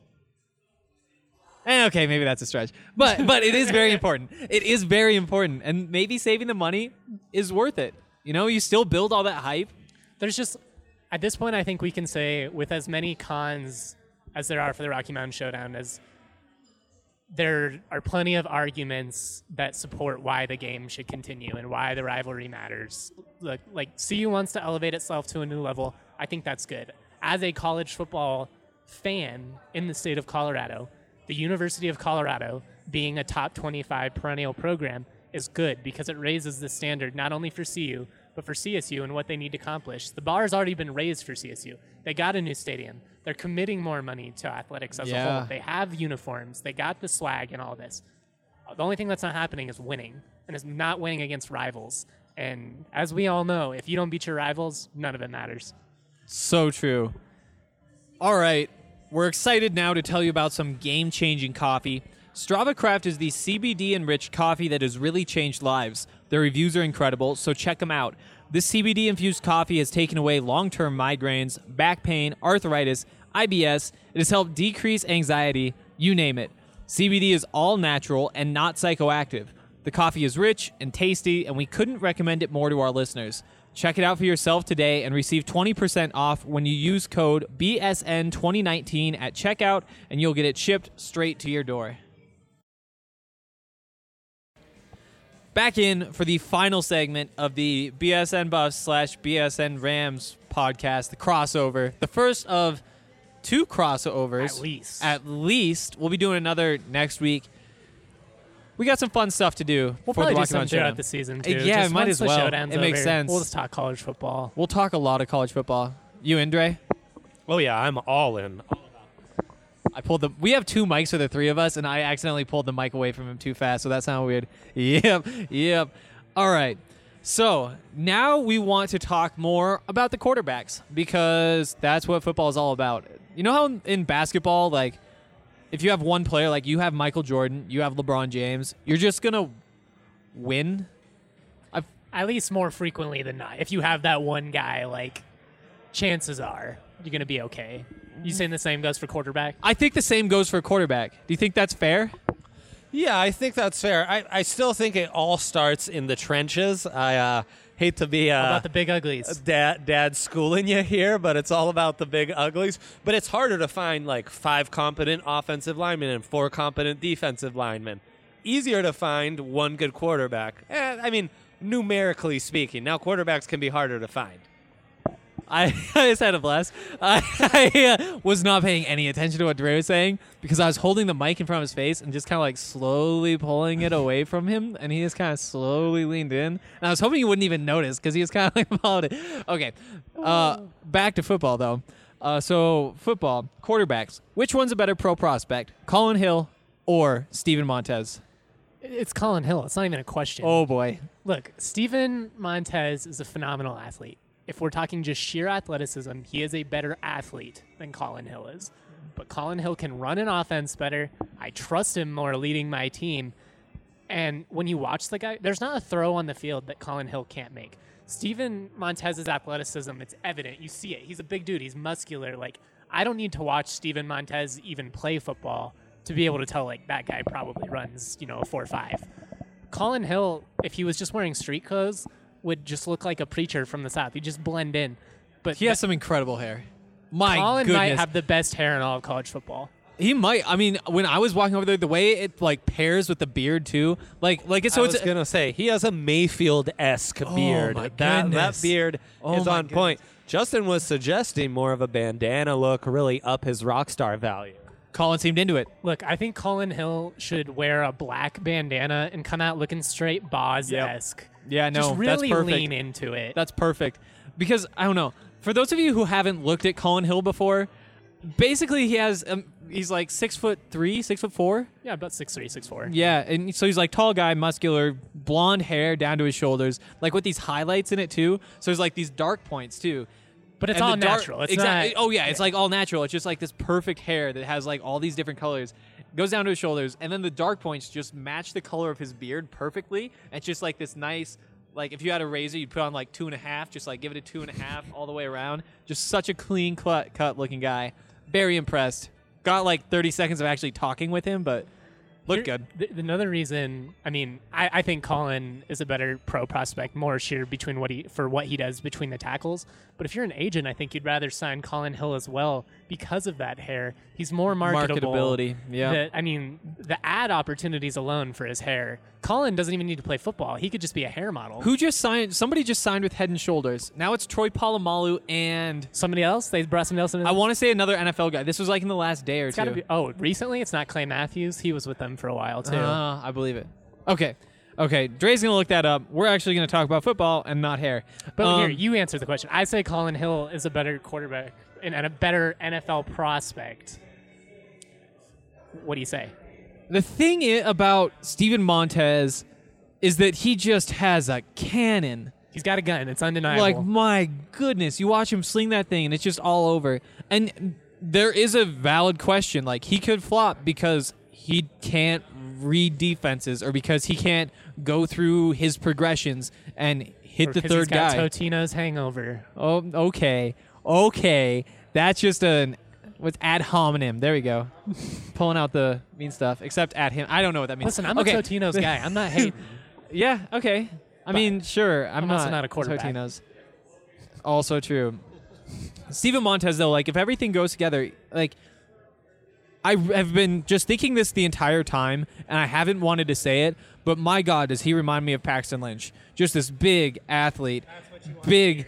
Okay, maybe that's a stretch. But it is very important. It is very important. And maybe saving the money is worth it. You still build all that hype. There's just, at this point, I think we can say with as many cons as there are for the Rocky Mountain Showdown, as there are plenty of arguments that support why the game should continue and why the rivalry matters. Like CU wants to elevate itself to a new level. I think that's good. As a college football fan in the state of Colorado, the University of Colorado being a top 25 perennial program is good because it raises the standard not only for CU, But for CSU and what they need to accomplish, the bar has already been raised for CSU. They got a new stadium. They're committing more money to athletics as a whole. They have uniforms. They got the swag and all this. The only thing that's not happening is winning, and it's not winning against rivals. And as we all know, if you don't beat your rivals, none of it matters. So true. All right, we're excited now to tell you about some game-changing coffee. Strava Craft is the CBD-enriched coffee that has really changed lives. Their reviews are incredible, so check them out. This CBD-infused coffee has taken away long-term migraines, back pain, arthritis, IBS. It has helped decrease anxiety, you name it. CBD is all natural and not psychoactive. The coffee is rich and tasty, and we couldn't recommend it more to our listeners. Check it out for yourself today and receive 20% off when you use code BSN2019 at checkout, and you'll get it shipped straight to your door. Back in for the final segment of the BSN Buffs / BSN Rams podcast, the crossover. The first of 2 crossovers. At least. We'll be doing another next week. We got some fun stuff to do. We'll for probably the do Rocky some Mountain throughout Showdown. the season, too. Yeah, Just might once as the well. showdown's It makes over, sense. We'll just talk college football. We'll talk a lot of college football. You in, Dre? Oh, yeah, I'm all in. We have 2 mics for the 3 of us, and I accidentally pulled the mic away from him too fast, so that sounded weird. Yep. All right. So now we want to talk more about the quarterbacks, because that's what football is all about. You know how in basketball, like, if you have one player, like you have Michael Jordan, you have LeBron James, you're just going to win? At least more frequently than not. If you have that one guy, like, chances are you're going to be okay. You saying the same goes for quarterback? I think the same goes for quarterback. Do you think that's fair? Yeah, I think that's fair. I still think it all starts in the trenches. I hate to be How about the big uglies? dad schooling you here, but it's all about the big uglies. But it's harder to find like 5 competent offensive linemen and 4 competent defensive linemen. Easier to find 1 good quarterback. I mean, numerically speaking. Now quarterbacks can be harder to find. I just had a blast. I was not paying any attention to what Dre was saying because I was holding the mic in front of his face and just kind of like slowly pulling it away from him, and he just kind of slowly leaned in. And I was hoping he wouldn't even notice because he was kind of like followed it. Okay, back to football though. So football quarterbacks. Which one's a better pro prospect, Colin Hill or Steven Montez? It's Colin Hill. It's not even a question. Oh boy. Look, Steven Montez is a phenomenal athlete. If we're talking just sheer athleticism, he is a better athlete than Colin Hill is. But Colin Hill can run an offense better. I trust him more leading my team. And when you watch the guy, there's not a throw on the field that Colin Hill can't make. Steven Montez's athleticism, it's evident. You see it. He's a big dude. He's muscular. Like, I don't need to watch Steven Montez even play football to be able to tell, like, that guy probably runs, a 4.5. Colin Hill, if he was just wearing street clothes, would just look like a preacher from the South. He'd just blend in. But He has some incredible hair. My Colin goodness. might have the best hair in all of college football. He might. I mean, when I was walking over there, the way it like pairs with the beard too, like it's so I was gonna say he has a Mayfield-esque beard. my That goodness. beard Oh is my on point. Justin was suggesting more of a bandana look, really up his rock star value. Colin seemed into it. Look, I think Colin Hill should wear a black bandana and come out looking straight Boz-esque. Yeah, no, Just really that's perfect. lean into it. That's perfect. Because I don't know. For those of you who haven't looked at Colin Hill before, basically he has he's like 6'3", 6'4". Yeah, about 6'3", 6'4". Yeah, and so he's like tall guy, muscular, blonde hair down to his shoulders, like with these highlights in it too. So there's like these dark points too. But it's And all the dark- natural. It's exactly. not. Oh yeah, it's like all natural. It's just like this perfect hair that has like all these different colors. Goes down to his shoulders, and then the dark points just match the color of his beard perfectly. And it's just like this nice, like if you had a razor, you'd put on like 2.5, just like give it a 2.5 all the way around. Just such a clean cut looking guy. Very impressed. Got like 30 seconds of actually talking with him, but looked good. Another reason, I mean, I think Colin is a better pro prospect, more sheer between what he does between the tackles. But if you're an agent, I think you'd rather sign Colin Hill as well because of that hair. He's more marketable. Marketability, yeah. I mean, the ad opportunities alone for his hair. Colin doesn't even need to play football. He could just be a hair model. Who just signed? Somebody just signed with Head & Shoulders. Now it's Troy Polamalu and Somebody else? They brought somebody else in? I want to say another NFL guy. This was like in the last day or It's two. gotta be. Oh, recently? It's not Clay Matthews. He was with them for a while, too. I believe it. Okay. Okay, Dre's going to look that up. We're actually going to talk about football and not hair. But here, you answer the question. I say Colin Hill is a better quarterback and a better NFL prospect. What do you say? The thing about Steven Montez is that he just has a cannon. He's got a gun. It's undeniable. Like, my goodness, you watch him sling that thing, and it's just all over. And there is a valid question. Like, he could flop because he can't read defenses or because he can't go through his progressions and hit the third he's got guy. Totino's hangover. Oh, okay. That's just what's ad hominem. There we go. Pulling out the mean stuff, except at him. I don't know what that means. Listen, I'm okay. a Totino's guy. I'm not hating. Yeah, okay. I mean, sure. I'm also not a quarterback. Totino's. Also true. Steven Montez, though, like, if everything goes together, like, I have been just thinking this the entire time, and I haven't wanted to say it, but my God, does he remind me of Paxton Lynch. Just this big athlete. Big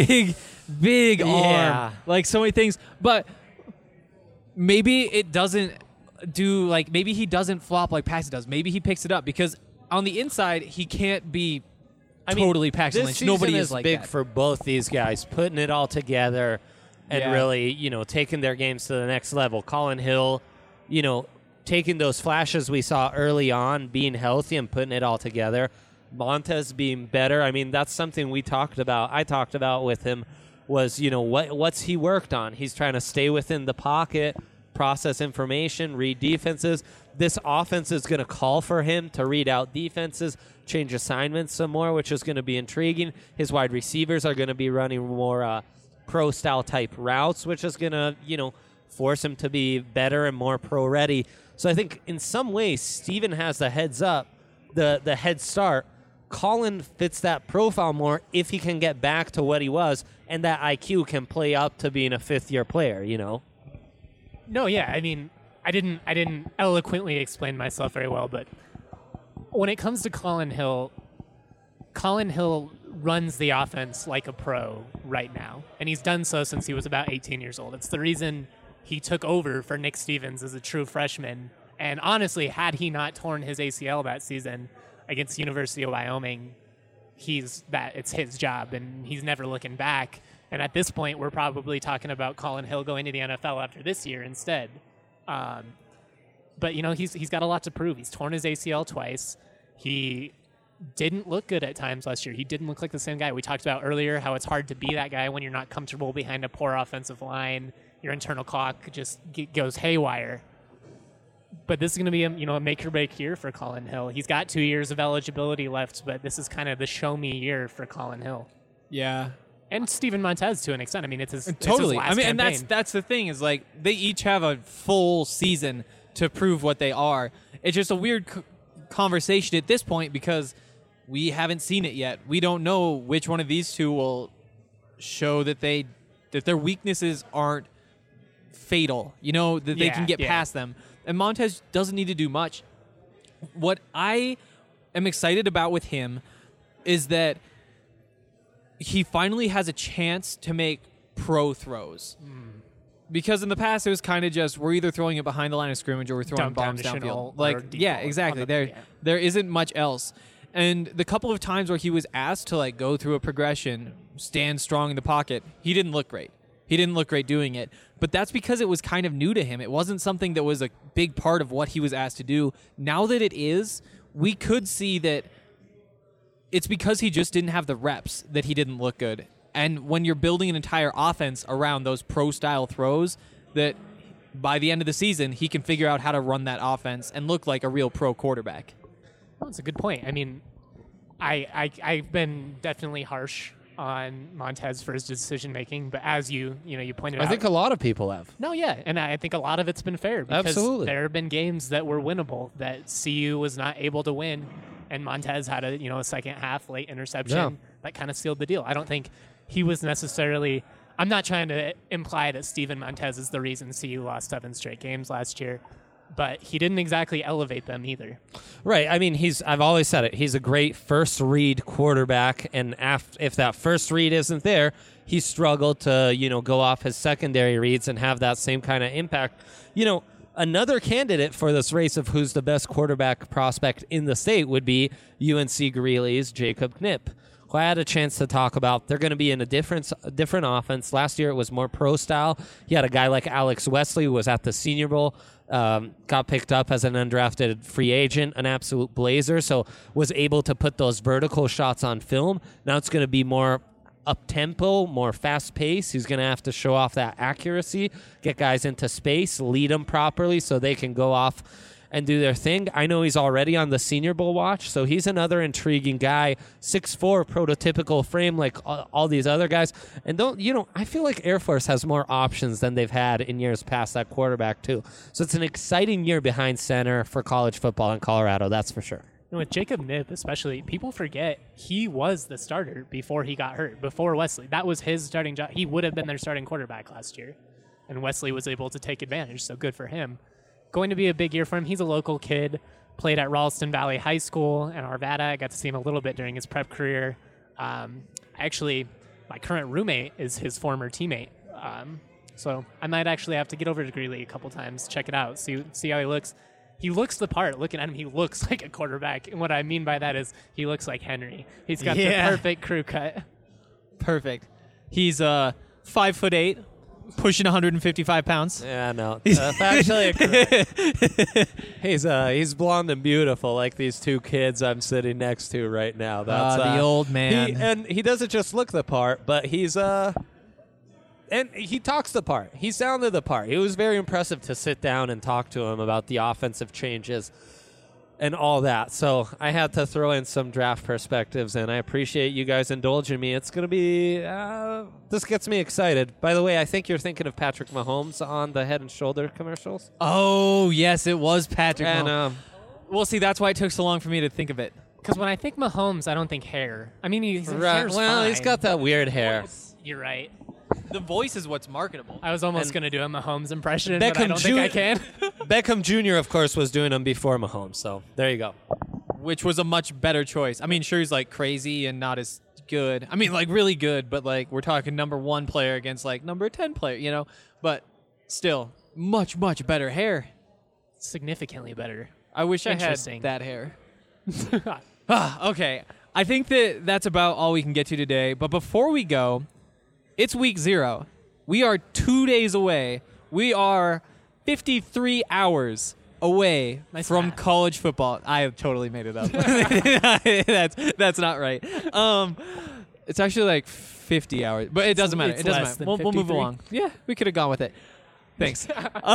arm. Like, so many things. But maybe it doesn't do, like, maybe he doesn't flop like Paxton does. Maybe he picks it up because on the inside, he can't be totally Paxton Lynch. Nobody is like big that. for both these guys, putting it all together and Yeah. really, taking their games to the next level. Colin Hill, taking those flashes we saw early on, being healthy and putting it all together. Montez being better. I mean, that's something I talked about with him was, what's he worked on? He's trying to stay within the pocket, process information, read defenses. This offense is going to call for him to read out defenses, change assignments some more, which is going to be intriguing. His wide receivers are going to be running more pro-style type routes, which is going to, force him to be better and more pro-ready. So I think in some ways, Steven has the heads up, the head start. Colin fits that profile more if he can get back to what he was, and that IQ can play up to being a fifth-year player, No, yeah. I mean, I didn't eloquently explain myself very well, but when it comes to Colin Hill runs the offense like a pro right now, and he's done so since he was about 18 years old. It's the reason he took over for Nick Stevens as a true freshman. And honestly, had he not torn his ACL that season against University of Wyoming, it's his job, and he's never looking back. And at this point, we're probably talking about Colin Hill going to the NFL after this year instead. But he's got a lot to prove. He's torn his ACL twice. He didn't look good at times last year. He didn't look like the same guy. We talked about earlier how it's hard to be that guy when you're not comfortable behind a poor offensive line. Your internal clock just goes haywire. But this is going to be a make or break year for Colin Hill. He's got 2 years of eligibility left, but this is kind of the show me year for Colin Hill. Yeah. And Steven Montez to an extent. I mean, it's his Totally. last I mean, campaign. and that's the thing is, like, they each have a full season to prove what they are. It's just a weird conversation at this point because we haven't seen it yet. We don't know which one of these two will show that their weaknesses aren't fatal. That they can get past them. And Montez doesn't need to do much. What I am excited about with him is that he finally has a chance to make pro throws. Because in the past, it was kind of just, we're either throwing it behind the line of scrimmage or we're throwing bombs downfield. Like, yeah, exactly. There isn't much else. And the couple of times where he was asked to, like, go through a progression, stand strong in the pocket, he didn't look great. He didn't look great doing it. But that's because it was kind of new to him. It wasn't something that was a big part of what he was asked to do. Now that it is, we could see that it's because he just didn't have the reps that he didn't look good. And when you're building an entire offense around those pro-style throws, that by the end of the season, he can figure out how to run that offense and look like a real pro quarterback. Well, that's a good point. I mean, I've been definitely harsh on Montez for his decision making, but as you pointed out, I think a lot of people have. No, yeah, and I think a lot of it's been fair because Absolutely. there have been games that were winnable that CU was not able to win, and Montez had a second half late interception that kind of sealed the deal. I don't think he was necessarily. I'm not trying to imply that Steven Montez is the reason CU lost 7 straight games last year, but he didn't exactly elevate them either. Right. I mean, I've always said it. He's a great first read quarterback, and if that first read isn't there, he struggled to, go off his secondary reads and have that same kind of impact. Another candidate for this race of who's the best quarterback prospect in the state would be UNC Greeley's Jacob Knipp, who I had a chance to talk about. They're going to be in a different offense. Last year it was more pro style. He had a guy like Alex Wesley who was at the Senior Bowl, got picked up as an undrafted free agent, an absolute blazer, so was able to put those vertical shots on film. Now it's going to be more up-tempo, more fast-paced. He's going to have to show off that accuracy, get guys into space, lead them properly so they can go off and do their thing. I know he's already on the Senior Bowl watch, so he's another intriguing guy. 6'4", prototypical frame like all these other guys. And I feel like Air Force has more options than they've had in years past at quarterback too. So it's an exciting year behind center for college football in Colorado, that's for sure. And with Jacob Knipp especially, people forget he was the starter before he got hurt, before Wesley. That was his starting job. He would have been their starting quarterback last year, and Wesley was able to take advantage, so good for him. Going to be a big year for him. He's a local kid, played at Ralston Valley High School in Arvada. I got to see him a little bit during his prep career. Actually, my current roommate is his former teammate. So I might actually have to get over to Greeley a couple times, check it out, see how he looks. He looks the part. Looking at him, he looks like a quarterback. And what I mean by that is he looks like Henry. He's got the perfect crew cut. Perfect. He's 5'8", pushing 155 pounds. Yeah, no. Actually, he's blonde and beautiful, like these two kids I'm sitting next to right now. That's the old man. He doesn't just look the part, but he's and he talks the part. He sounded the part. It was very impressive to sit down and talk to him about the offensive changes and all that. So I had to throw in some draft perspectives, and I appreciate you guys indulging me. It's going to be this gets me excited. By the way, I think you're thinking of Patrick Mahomes on the Head & Shoulder commercials. Oh, yes, it was Patrick And Mahomes. Well, see, that's why it took so long for me to think of it. Because when I think Mahomes, I don't think hair. I mean, his hair's well, fine. he's got that weird hair. You're right. The voice is what's marketable. I was almost going to do a Mahomes impression, but I Beckham don't think I can. Beckham Jr., of course, was doing him before Mahomes, so there you go. Which was a much better choice. I mean, sure, he's like crazy and not as good. I mean, like really good, but like we're talking number 1 player against like number 10 player, But still, much, much better hair. Significantly better. I wish I had Interesting. that hair. Okay. I think that's about all we can get to today. But before we go, it's week 0. We are 2 days away. We are 53 hours away from math. college football. I have totally made it up. That's not right. It's actually like 50 hours, but it doesn't matter. It's It doesn't less matter. than We'll move 53. along. Yeah, we could have gone with it. Thanks.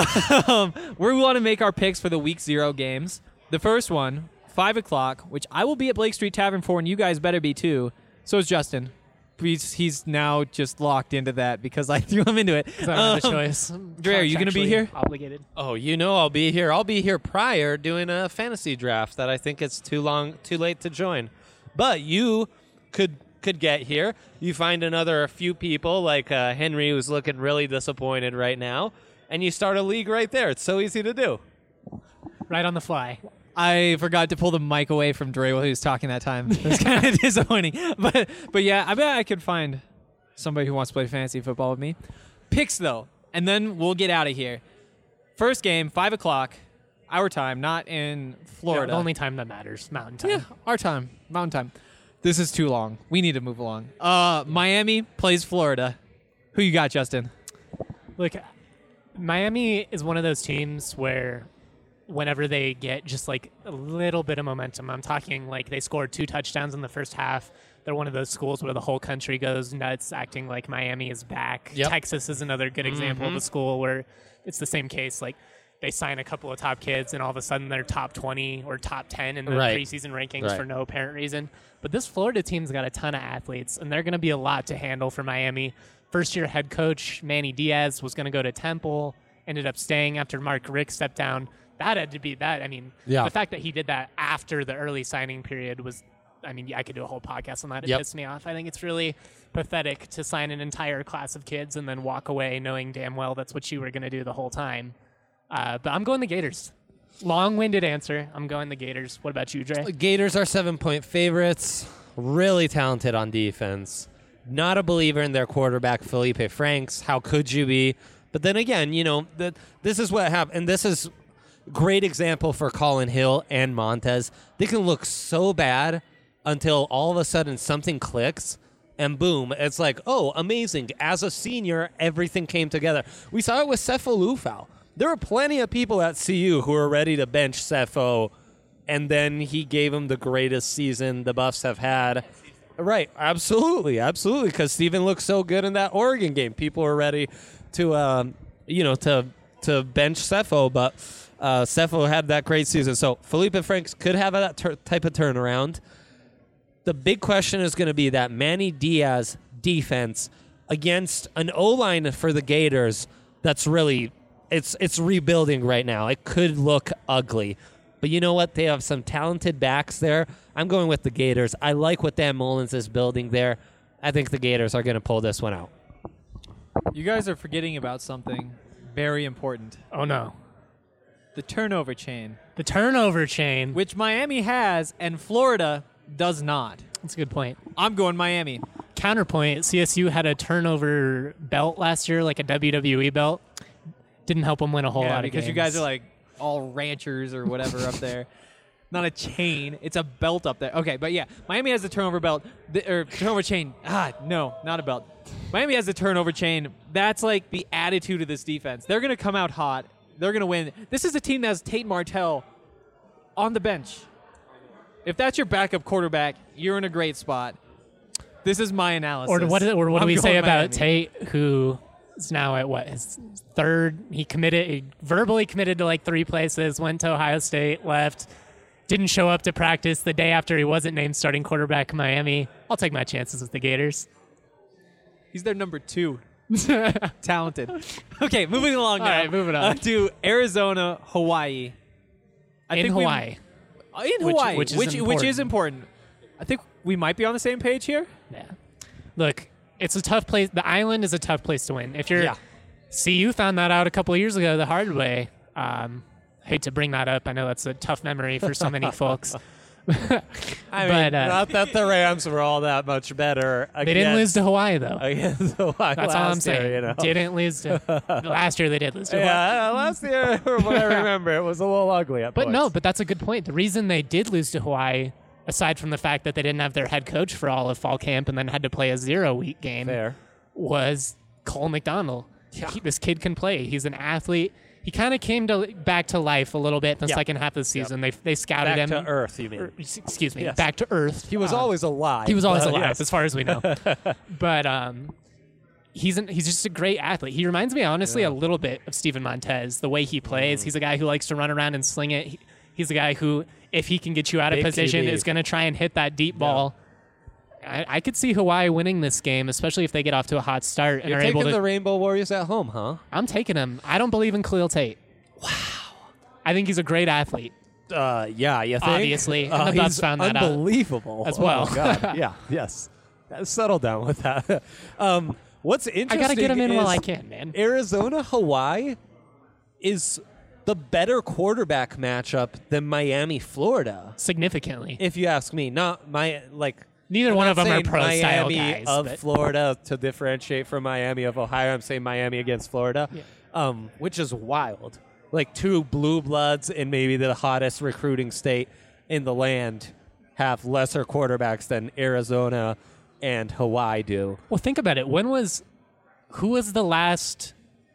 We want to make our picks for the week 0 games. The first one, 5 o'clock, which I will be at Blake Street Tavern for, and you guys better be too. So is Justin. He's now just locked into that because I threw him into it. I don't have a choice. Dre, are you going to be Contractually here? Obligated. Oh, I'll be here. I'll be here prior doing a fantasy draft that I think it's too late to join. But you could get here. You find another few people like Henry, who's looking really disappointed right now, and you start a league right there. It's so easy to do. Right on the fly. I forgot to pull the mic away from Dre while he was talking that time. It was kind of disappointing. But yeah, I bet I could find somebody who wants to play fantasy football with me. Picks, though, and then we'll get out of here. First game, 5 o'clock, our time, not in Florida. The only time that matters, Mountain Time. Yeah, our time, Mountain Time. This is too long. We need to move along. Miami plays Florida. Who you got, Justin? Look, Miami is one of those teams where whenever they get just like a little bit of momentum, I'm talking like they scored 2 touchdowns in the first half. They're one of those schools where the whole country goes nuts, acting like Miami is back. Yep. Texas is another good example of a school where it's the same case. Like they sign a couple of top kids, and all of a sudden they're top 20 or top 10 in the preseason rankings for no apparent reason. But this Florida team's got a ton of athletes, and they're going to be a lot to handle for Miami. First-year head coach Manny Diaz was going to go to Temple, ended up staying after Mark Richt stepped down. That had to be that. I mean, the fact that he did that after the early signing period was, I mean, I could do a whole podcast on that. It pissed me off. I think it's really pathetic to sign an entire class of kids and then walk away knowing damn well that's what you were going to do the whole time. But I'm going the Gators. Long-winded answer. I'm going the Gators. What about you, Dre? Gators are 7-point favorites. Really talented on defense. Not a believer in their quarterback, Felipe Franks. How could you be? But then again, this is what happened, and this is great example for Colin Hill and Montez. They can look so bad until all of a sudden something clicks, and boom, it's like, oh, amazing. As a senior, everything came together. We saw it with Sefo Lufau. There were plenty of people at CU who were ready to bench Sefo, and then he gave him the greatest season the Buffs have had. Right, absolutely, because Steven looked so good in that Oregon game. People were ready to, to bench Sefo, but Sefo had that great season. So Felipe Franks could have that type of turnaround. The big question is going to be that Manny Diaz defense against an O-line for the Gators that's really, it's rebuilding right now. It could look ugly. But you know what? They have some talented backs there. I'm going with the Gators. I like what Dan Mullins is building there. I think the Gators are going to pull this one out. You guys are forgetting about something very important. Oh, no. The turnover chain. The turnover chain. Which Miami has and Florida does not. That's a good point. I'm going Miami. Counterpoint, CSU had a turnover belt last year, like a WWE belt. Didn't help them win a whole lot of games. Because you guys are like all ranchers or whatever up there. Not a chain. It's a belt up there. Okay, but yeah, Miami has the turnover belt, or turnover chain. No, not a belt. Miami has the turnover chain. That's like the attitude of this defense. They're going to come out hot. They're going to win. This is a team that has Tate Martell on the bench. If that's your backup quarterback, you're in a great spot. This is my analysis. Or what do we say about Miami. Tate, who is now at his third? He verbally committed to like 3 places, went to Ohio State, left, didn't show up to practice the day after he wasn't named starting quarterback in Miami. I'll take my chances with the Gators. He's their number 2. Talented. Okay, moving along now. All right, moving on. To Arizona, Hawaii. Hawaii. In Hawaii, which is important. I think we might be on the same page here. Yeah. Look, it's a tough place. The island is a tough place to win. If you're CU found that out a couple of years ago the hard way. Hate to bring that up. I know that's a tough memory for so many folks. Not that the Rams were all that much better. They didn't lose to Hawaii, though. Against Hawaii. That's all I'm saying. Year, Didn't lose to. Last year they did lose to Hawaii. Yeah, last year, from what I remember, it was a little ugly at points. But that's a good point. The reason they did lose to Hawaii, aside from the fact that they didn't have their head coach for all of fall camp and then had to play a 0-week game, was Cole McDonald. Yeah. This kid can play. He's an athlete. He kind of came back to life a little bit in the second half of the season. They scouted him. Back to earth, you mean? Excuse me. Yes. Back to earth. He was always alive. He was always alive, as far as we know. But he's just a great athlete. He reminds me, honestly, a little bit of Steven Montez, the way he plays. He's a guy who likes to run around and sling it. He's a guy who, if he can get you out of position, is going to try and hit that deep ball. I could see Hawaii winning this game, especially if they get off to a hot start and You're are able to. taking the Rainbow Warriors at home, huh? I'm taking him. I don't believe in Khalil Tate. Wow. I think he's a great athlete. Yeah, you think? Obviously, and the Buffs found that out. Unbelievable. As well. Oh, God. Yeah, yes. Settle down with that. What's interesting I got to get him in while I can, man. Arizona, Hawaii is the better quarterback matchup than Miami, Florida. Significantly. If you ask me. Not my, Neither one of them are pro-style Miami guys. of Florida to differentiate from Miami of Ohio. I'm saying Miami against Florida, which is wild. Like 2 blue bloods in maybe the hottest recruiting state in the land have lesser quarterbacks than Arizona and Hawaii do. Well, think about it. Who was the last,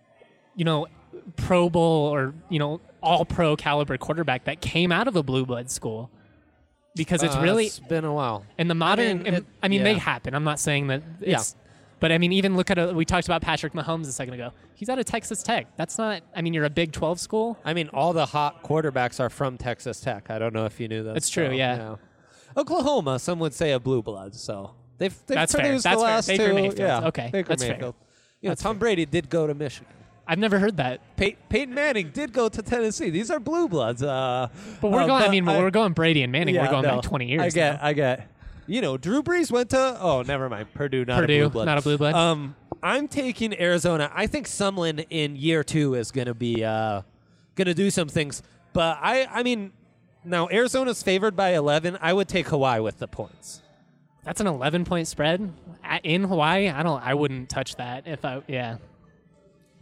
Pro Bowl or, all-pro caliber quarterback that came out of a blue blood school? Because it's really it's been a while. In the modern, they happen. I'm not saying that. But even look at we talked about Patrick Mahomes a second ago. He's out of Texas Tech. That's not. You're a Big 12 school. All the hot quarterbacks are from Texas Tech. I don't know if you knew that. That's true. Yeah. Oklahoma, some would say a blue blood. So they've that's produced fair. the last Baker 2. Mayfield. Yeah. Okay. Baker That's Mayfield. fair. Tom Brady did go to Michigan. I've never heard that. Peyton Manning did go to Tennessee. These are blue bloods. But we're going. We're going Brady and Manning. We're going back 20 years. I get. Drew Brees went to. Oh, never mind. Purdue, not a blue blood. Not a blue blood. I'm taking Arizona. I think Sumlin in year 2 is going to be going to do some things. But now Arizona's favored by 11. I would take Hawaii with the points. That's an 11-point spread in Hawaii. I wouldn't touch that if I. Yeah.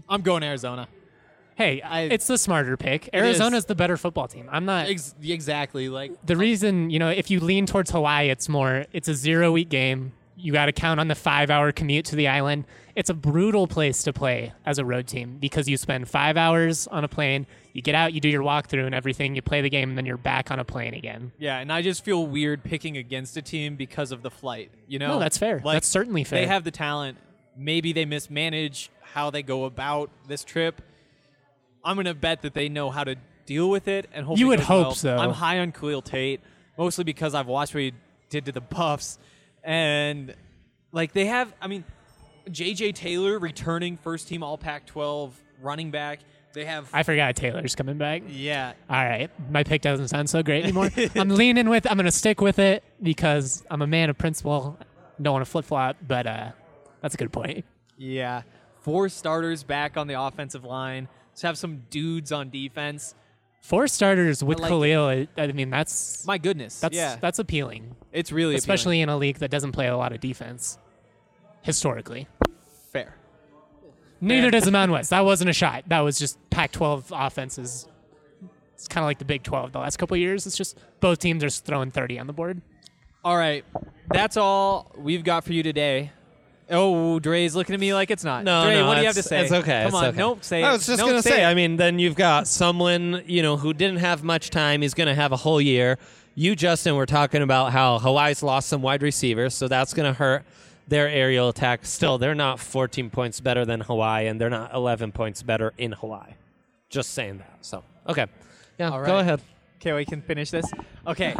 I'm going Arizona. Hey, it's the smarter pick. Arizona's the better football team. I'm not. Exactly. Like The reason, if you lean towards Hawaii, it's a 0-week game. You got to count on the 5-hour commute to the island. It's a brutal place to play as a road team because you spend 5 hours on a plane. You get out, you do your walkthrough and everything. You play the game, and then you're back on a plane again. Yeah, and I just feel weird picking against a team because of the flight. No, that's fair. Like, that's certainly fair. They have the talent. Maybe they mismanage how they go about this trip. I'm going to bet that they know how to deal with it. And hopefully You would it goes hope well. so. I'm high on Khalil Tate, mostly because I've watched what he did to the Buffs. And, they have, J.J. Taylor returning first-team All-Pac-12 running back. They have... I forgot Taylor's coming back. Yeah. All right. My pick doesn't sound so great anymore. I'm going to stick with it because I'm a man of principle. Don't want to flip-flop, but that's a good point. Yeah. 4 starters back on the offensive line. Let's have some dudes on defense. 4 starters with I like Khalil, that's... My goodness. That's appealing. It's really especially in a league that doesn't play a lot of defense, historically. Fair. Neither does the Mountain West. That wasn't a shot. That was just Pac-12 offenses. It's kind of like the Big 12 the last couple of years. It's just both teams are throwing 30 on the board. All right. That's all we've got for you today. Oh, Dre's looking at me like it's not. No, Dre, no, what do you have to say? It's okay. Come it's on. okay. Nope, say it. I was just Nope, going to say say, it. then you've got someone, who didn't have much time. He's going to have a whole year. You, Justin, were talking about how Hawaii's lost some wide receivers, so that's going to hurt their aerial attack. Still, they're not 14 points better than Hawaii, and they're not 11 points better in Hawaii. Just saying that. So, okay. Yeah, All go right. ahead. Okay, we can finish this. Okay.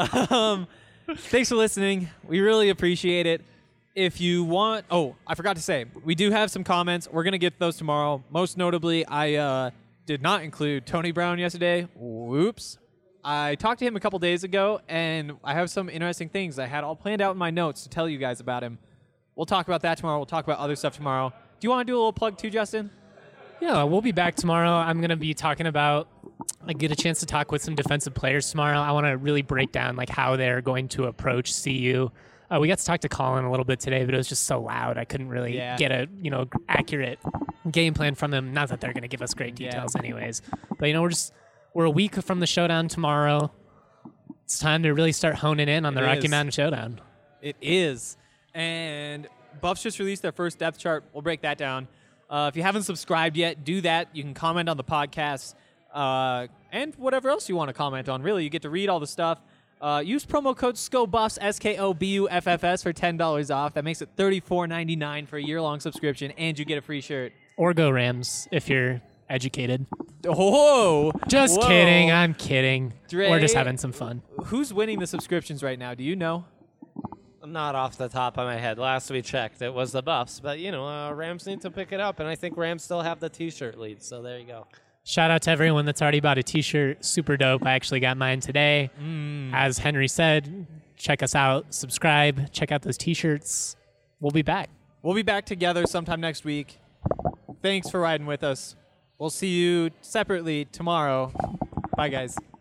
Thanks for listening. We really appreciate it. If you want, I forgot to say, we do have some comments. We're going to get to those tomorrow. Most notably, I did not include Tony Brown yesterday. Whoops. I talked to him a couple days ago, and I have some interesting things I had all planned out in my notes to tell you guys about him. We'll talk about that tomorrow. We'll talk about other stuff tomorrow. Do you want to do a little plug too, Justin? Yeah, we'll be back tomorrow. I'm going to be talking about, I get a chance to talk with some defensive players tomorrow. I want to really break down how they're going to approach CU. We got to talk to Colin a little bit today, but it was just so loud. I couldn't really get a accurate game plan from them. Not that they're going to give us great details anyways. But, we're a week from the showdown tomorrow. It's time to really start honing in on the Rocky Mountain Showdown. It is. And Buffs just released their first depth chart. We'll break that down. If you haven't subscribed yet, do that. You can comment on the podcast and whatever else you want to comment on. Really, you get to read all the stuff. Use promo code SCOBUFFS, SKOBUFFS, for $10 off. That makes it $34.99 for a year-long subscription, and you get a free shirt. Or go Rams if you're educated. Whoa! Just Whoa. kidding. I'm kidding. Dre, We're just having some fun. Who's winning the subscriptions right now? Do you know? Not off the top of my head. Last we checked, it was the Buffs. But, Rams need to pick it up, and I think Rams still have the T-shirt lead. So there you go. Shout out to everyone that's already bought a T-shirt. Super dope. I actually got mine today. As Henry said, check us out. Subscribe. Check out those T-shirts. We'll be back. We'll be back together sometime next week. Thanks for riding with us. We'll see you separately tomorrow. Bye, guys.